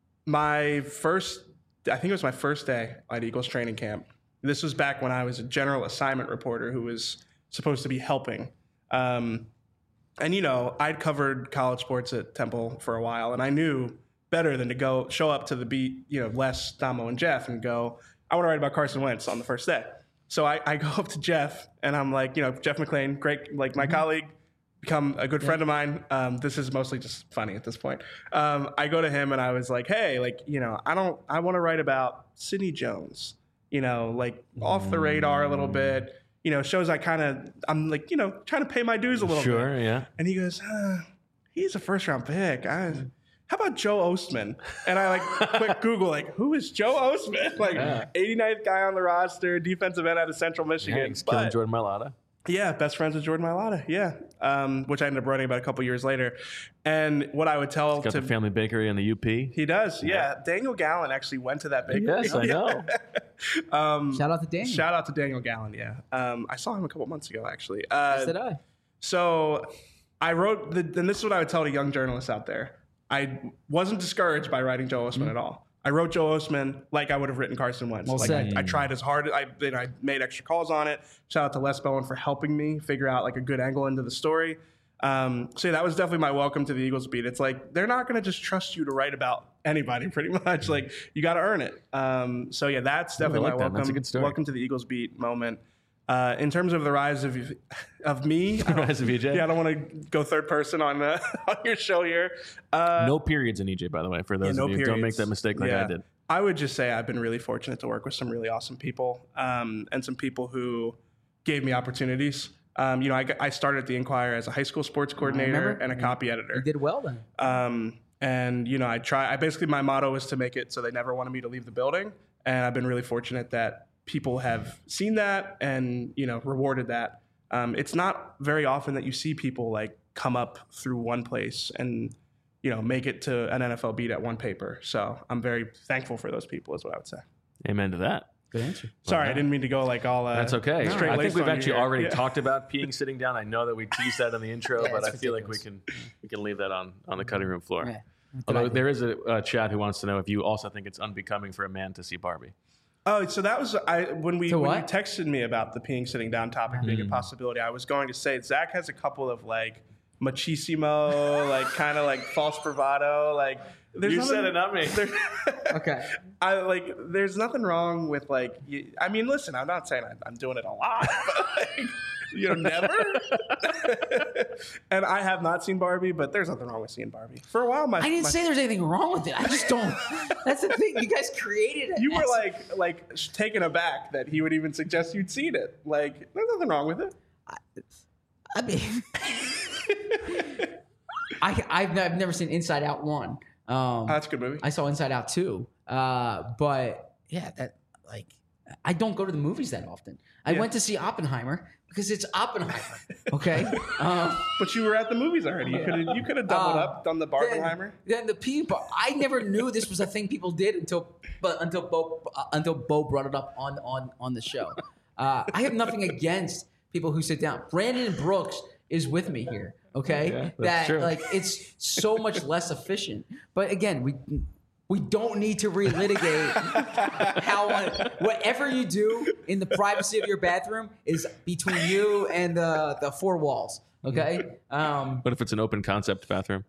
my first, I think it was my first day at Eagles training camp. This was back when I was a general assignment reporter who was supposed to be helping. Um, and, you know, I'd covered college sports at Temple for a while, and I knew better than to go show up to the beat, you know, Les, Damo, and Jeff and go, I want to write about Carson Wentz on the first day. So I, I go up to Jeff, and I'm like, you know, Jeff McClain, great, like my colleague, become a good friend of mine. Um, this is mostly just funny at this point. Um, I go to him, and I was like, hey, like, you know, I don't, I want to write about Sidney Jones, you know, like off the radar a little bit, you know, shows I kind of, I'm like, you know, trying to pay my dues a little bit. Sure, yeah. And he goes, uh, he's a first round pick. I, how about Joe Ostman? And I like quick Google, like, who is Joe Ostman? Like, Yeah. eighty-ninth guy on the roster, defensive end out of Central Michigan. Yeah, he's killing But- Jordan Mailata. yeah, best friends with Jordan Mailata. Yeah, um, which I ended up writing about a couple years later. And what I would tell Got to the family bakery and the U P. he does, yeah. Daniel Gallen actually went to that bakery. Yes, I know. um, Shout out to Daniel. shout out to Daniel Gallen. Yeah, um, I saw him a couple months ago actually. Uh, Yes, did I? So I wrote, the, and this is what I would tell to young journalists out there. I wasn't discouraged by writing Joe Ostman at all. I wrote Joe Ostman like I would have written Carson Wentz. Well like said. I, I tried as hard. I, you know, I made extra calls on it. Shout out to Les Bowen for helping me figure out like a good angle into the story. Um, so yeah, that was definitely my welcome to the Eagles beat. It's like they're not going to just trust you to write about anybody, pretty much. Like you got to earn it. Um, so yeah, that's definitely like my that. That's a welcome. good story. Welcome to the Eagles beat moment. Uh, in terms of the rise of of me, I don't- Rise of E J? Yeah, I don't want to go third person on uh, on your show here. Uh, No periods in E J, by the way, for those yeah, no of you. Don't make periods. that mistake like Yeah. I did. I would just say I've been really fortunate to work with some really awesome people um, and some people who gave me opportunities. Um, you know, I, got- I started at the Inquirer as a high school sports coordinator remember. and a copy You editor. did well then. Um, and you know, I try. I basically my motto is to make it so they never wanted me to leave the building. And I've been really fortunate that people have seen that and you know rewarded that. Um, it's not very often that you see people like come up through one place and you know make it to an N F L beat at one paper. So I'm very thankful for those people, is what I would say. Amen to that. Good answer. Sorry, yeah. I didn't mean to go like all. Uh, That's okay. straight I think laced we've on you actually here. already Yeah. talked about peeing sitting down. I know that we teased that in the intro, Yeah, but I it's feel like we ridiculous. can we can leave that on, on the cutting room floor. Yeah. Although there is a uh, chat who wants to know if you also think it's unbecoming for a man to see Barbie. Oh, so that was I when we To when you what? texted me about the peeing sitting down topic being a Mm. possibility. I was going to say Zach has a couple of like machismo, like kind of like false bravado. Like there's You nothing- said it, not me. there- Okay. I like. There's nothing wrong with like. You, I mean, listen. I'm not saying I, I'm doing it a lot, but like, you know, never. And I have not seen Barbie, but there's nothing wrong with seeing Barbie. For a while, my I didn't my- say there's anything wrong with it. I just don't. That's the thing. You guys created it. you were as- like like sh- taken aback that he would even suggest you'd seen it. Like, there's nothing wrong with it. I mean, I I've, I've never seen Inside Out one. Um, Oh, that's a good movie. I saw Inside Out two. Uh, but yeah, that like I don't go to the movies that often. I Yeah. went to see Oppenheimer because it's Oppenheimer. Okay. um, But you were at the movies already. You could have you could have doubled Uh, up, done the Barbenheimer. Then, then the people, I never knew this was a thing people did until, but until Bo, uh, until Bo brought it up on on on the show. Uh, I have nothing against people who sit down. Brandon Brooks is with me here. Okay, Yeah, that's that true. like it's so much less efficient. But again, we we don't need to relitigate how whatever you do in the privacy of your bathroom is between you and the the four walls. Okay, um, What if it's an open concept bathroom?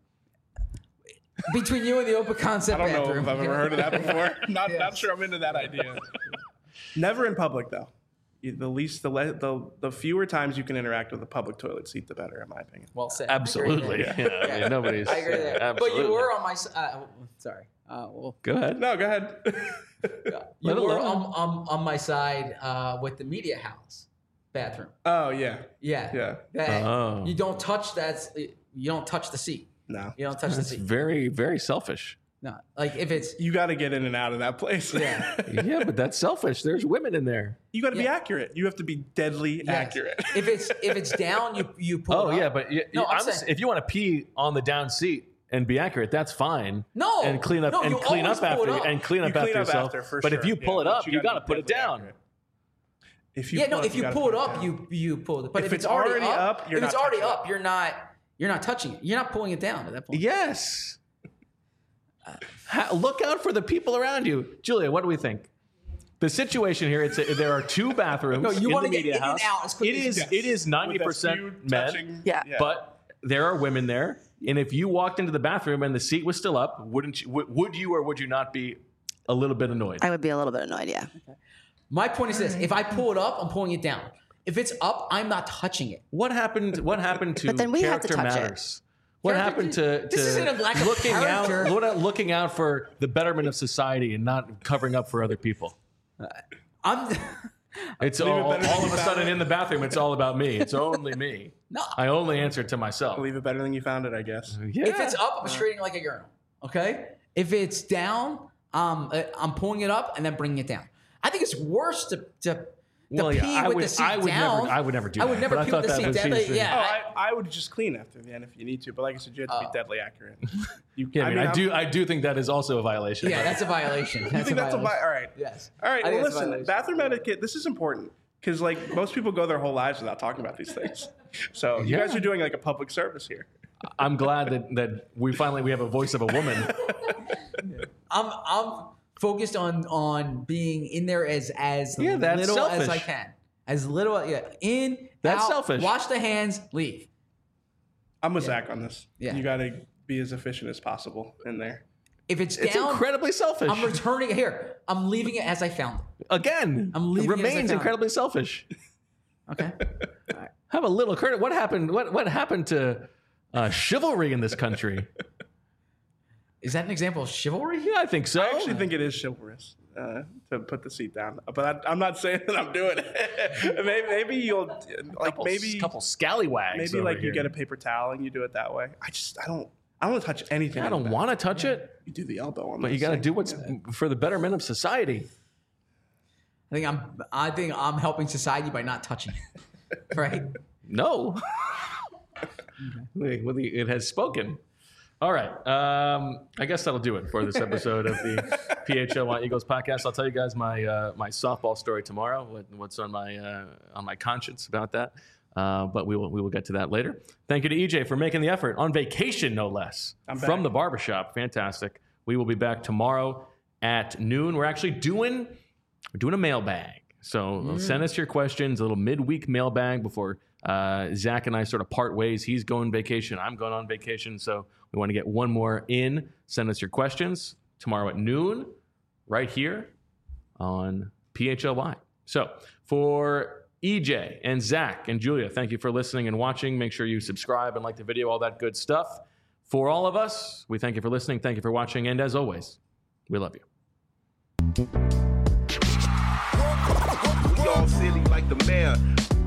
between you and the open I concept don't know bathroom. if I've ever heard of that before. Not Yes. not sure I'm into that idea. Never in public though. You- The least, the, le- the the fewer times you can interact with a public toilet seat, the better, in my opinion. Well said. Absolutely. I Yeah, agree there. I mean, nobody's. I agree there. But Absolutely. you were on my side. Uh, sorry. Uh, well, Go ahead. No, go ahead. you Let it were alone. on, on, on my side uh, with the media house bathroom. Oh yeah, Yeah. yeah. That, Oh. You don't touch that. You don't touch the seat. No, You don't touch the That's seat. very, very selfish. No. Like if it's you got to get in and out of that place. yeah. Yeah, but that's selfish. There's women in there. You got to be Yeah. accurate. You have to be deadly Yes. accurate. If it's if it's down, you you pull. Oh it up. yeah, but you, No, you- I'm I'm s- saying- if you want to pee on the down seat and be accurate, that's fine. No. and clean up No, and you clean always up pull it after up. and clean You up clean after up yourself. after, for but if sure. you pull Yeah, it but up, you you gotta got to be put it deadly down. accurate. If you Yeah. pull No. up, If you gotta pull put it up, down. you you pull it. But If if, it's, it's already, already up, up, you're if it's not already touching up, you're not you're not touching it. You're not pulling it down at that point. Yes. Ha- look out for the people around you, Julia. What do we think? The situation here, it's a, there are two bathrooms No, you in wanna the get media in and house. out as quickly It as is you it is ninety With a few percent men, touching- Yeah. but there are women there. And if you walked into the bathroom and the seat was still up, wouldn't you? Would, would you or would you not be a little bit annoyed? I would be a little bit annoyed, yeah. My point is this: if I pull it up, I'm pulling it down. If it's up, I'm not touching it. What happened? What happened to But then we have to character touch it. matters? What Character- happened to, to This isn't a lack of looking out, character. what- looking out for the betterment of society and not covering up for other people? I'm It's Leave it all, better than all of you a found sudden it. in the bathroom. It's all about me. It's only me. no. I only answer to myself. Leave it better than you found it, I guess. Yeah. If it's up, I'm straightening like a urinal. Okay. If it's down, um, uh, I'm pulling it up and then bringing it down. I think it's worse to to, to Well, yeah, pee I with would- the seat I would down. never- I would never do I would that, never but I pee thought with the that seat was down. easy. Yeah. Oh, I- I, I would just clean after the end if you need to, but like I said, you have to Oh. be deadly accurate. You, Yeah, I mean, I, I'm- do. I do think that is also a violation. yeah, that's a violation. That's You think that's a violation. vi- all right? Yes. All right. I think Well, it's a listen. violation. Bathroom etiquette. This is important because like most people go their whole lives without talking about these things. So you Yeah. guys are doing like a public service here. I'm glad that that we finally we have a voice of a woman. I'm I'm focused on on being in there as as Yeah, that's little as selfish. I can. As little, yeah. In, That's out, selfish. Wash the hands, leave. I'm with Zach on this. Yeah. You got to be as efficient as possible in there. If it's It's down, incredibly selfish. I'm returning it here. I'm leaving it as I found it. Again, I'm leaving it it as I remains found it. incredibly selfish. Okay. Have a little credit. What happened? What what happened to uh, chivalry in this country? Is that an example of chivalry? Yeah, I think so. I actually think it is chivalrous uh, to put the seat down, but I, I'm not saying that I'm doing it. maybe, maybe you'll like couple, maybe couple scallywags. maybe over like you here. get a paper towel and you do it that way. I just I don't I don't want to touch anything. I in don't the want to touch it, bathroom. You do the elbow on, but you got to do what's for the betterment of society. I think I'm. I think I'm helping society by not touching it. Right. No. Well, it has spoken. All right. Um, I guess that'll do it for this episode of the P H L Y Eagles podcast. I'll tell you guys my uh, my softball story tomorrow. What, what's on my uh, on my conscience about that? Uh, but we will we will get to that later. Thank you to E J for making the effort on vacation, no less, I'm from back. the barbershop. Fantastic. We will be back tomorrow at noon. We're actually doing we're doing a mailbag. So send us your questions. A little midweek mailbag before uh, Zach and I sort of part ways. He's going vacation. I'm going on vacation. So we want to get one more in. Send us your questions tomorrow at noon, right here on P H L Y. So for E J and Zach and Julia, thank you for listening and watching. Make sure you subscribe and like the video, all that good stuff. For all of us, we thank you for listening. Thank you for watching. And as always, we love you. We all silly like the mayor.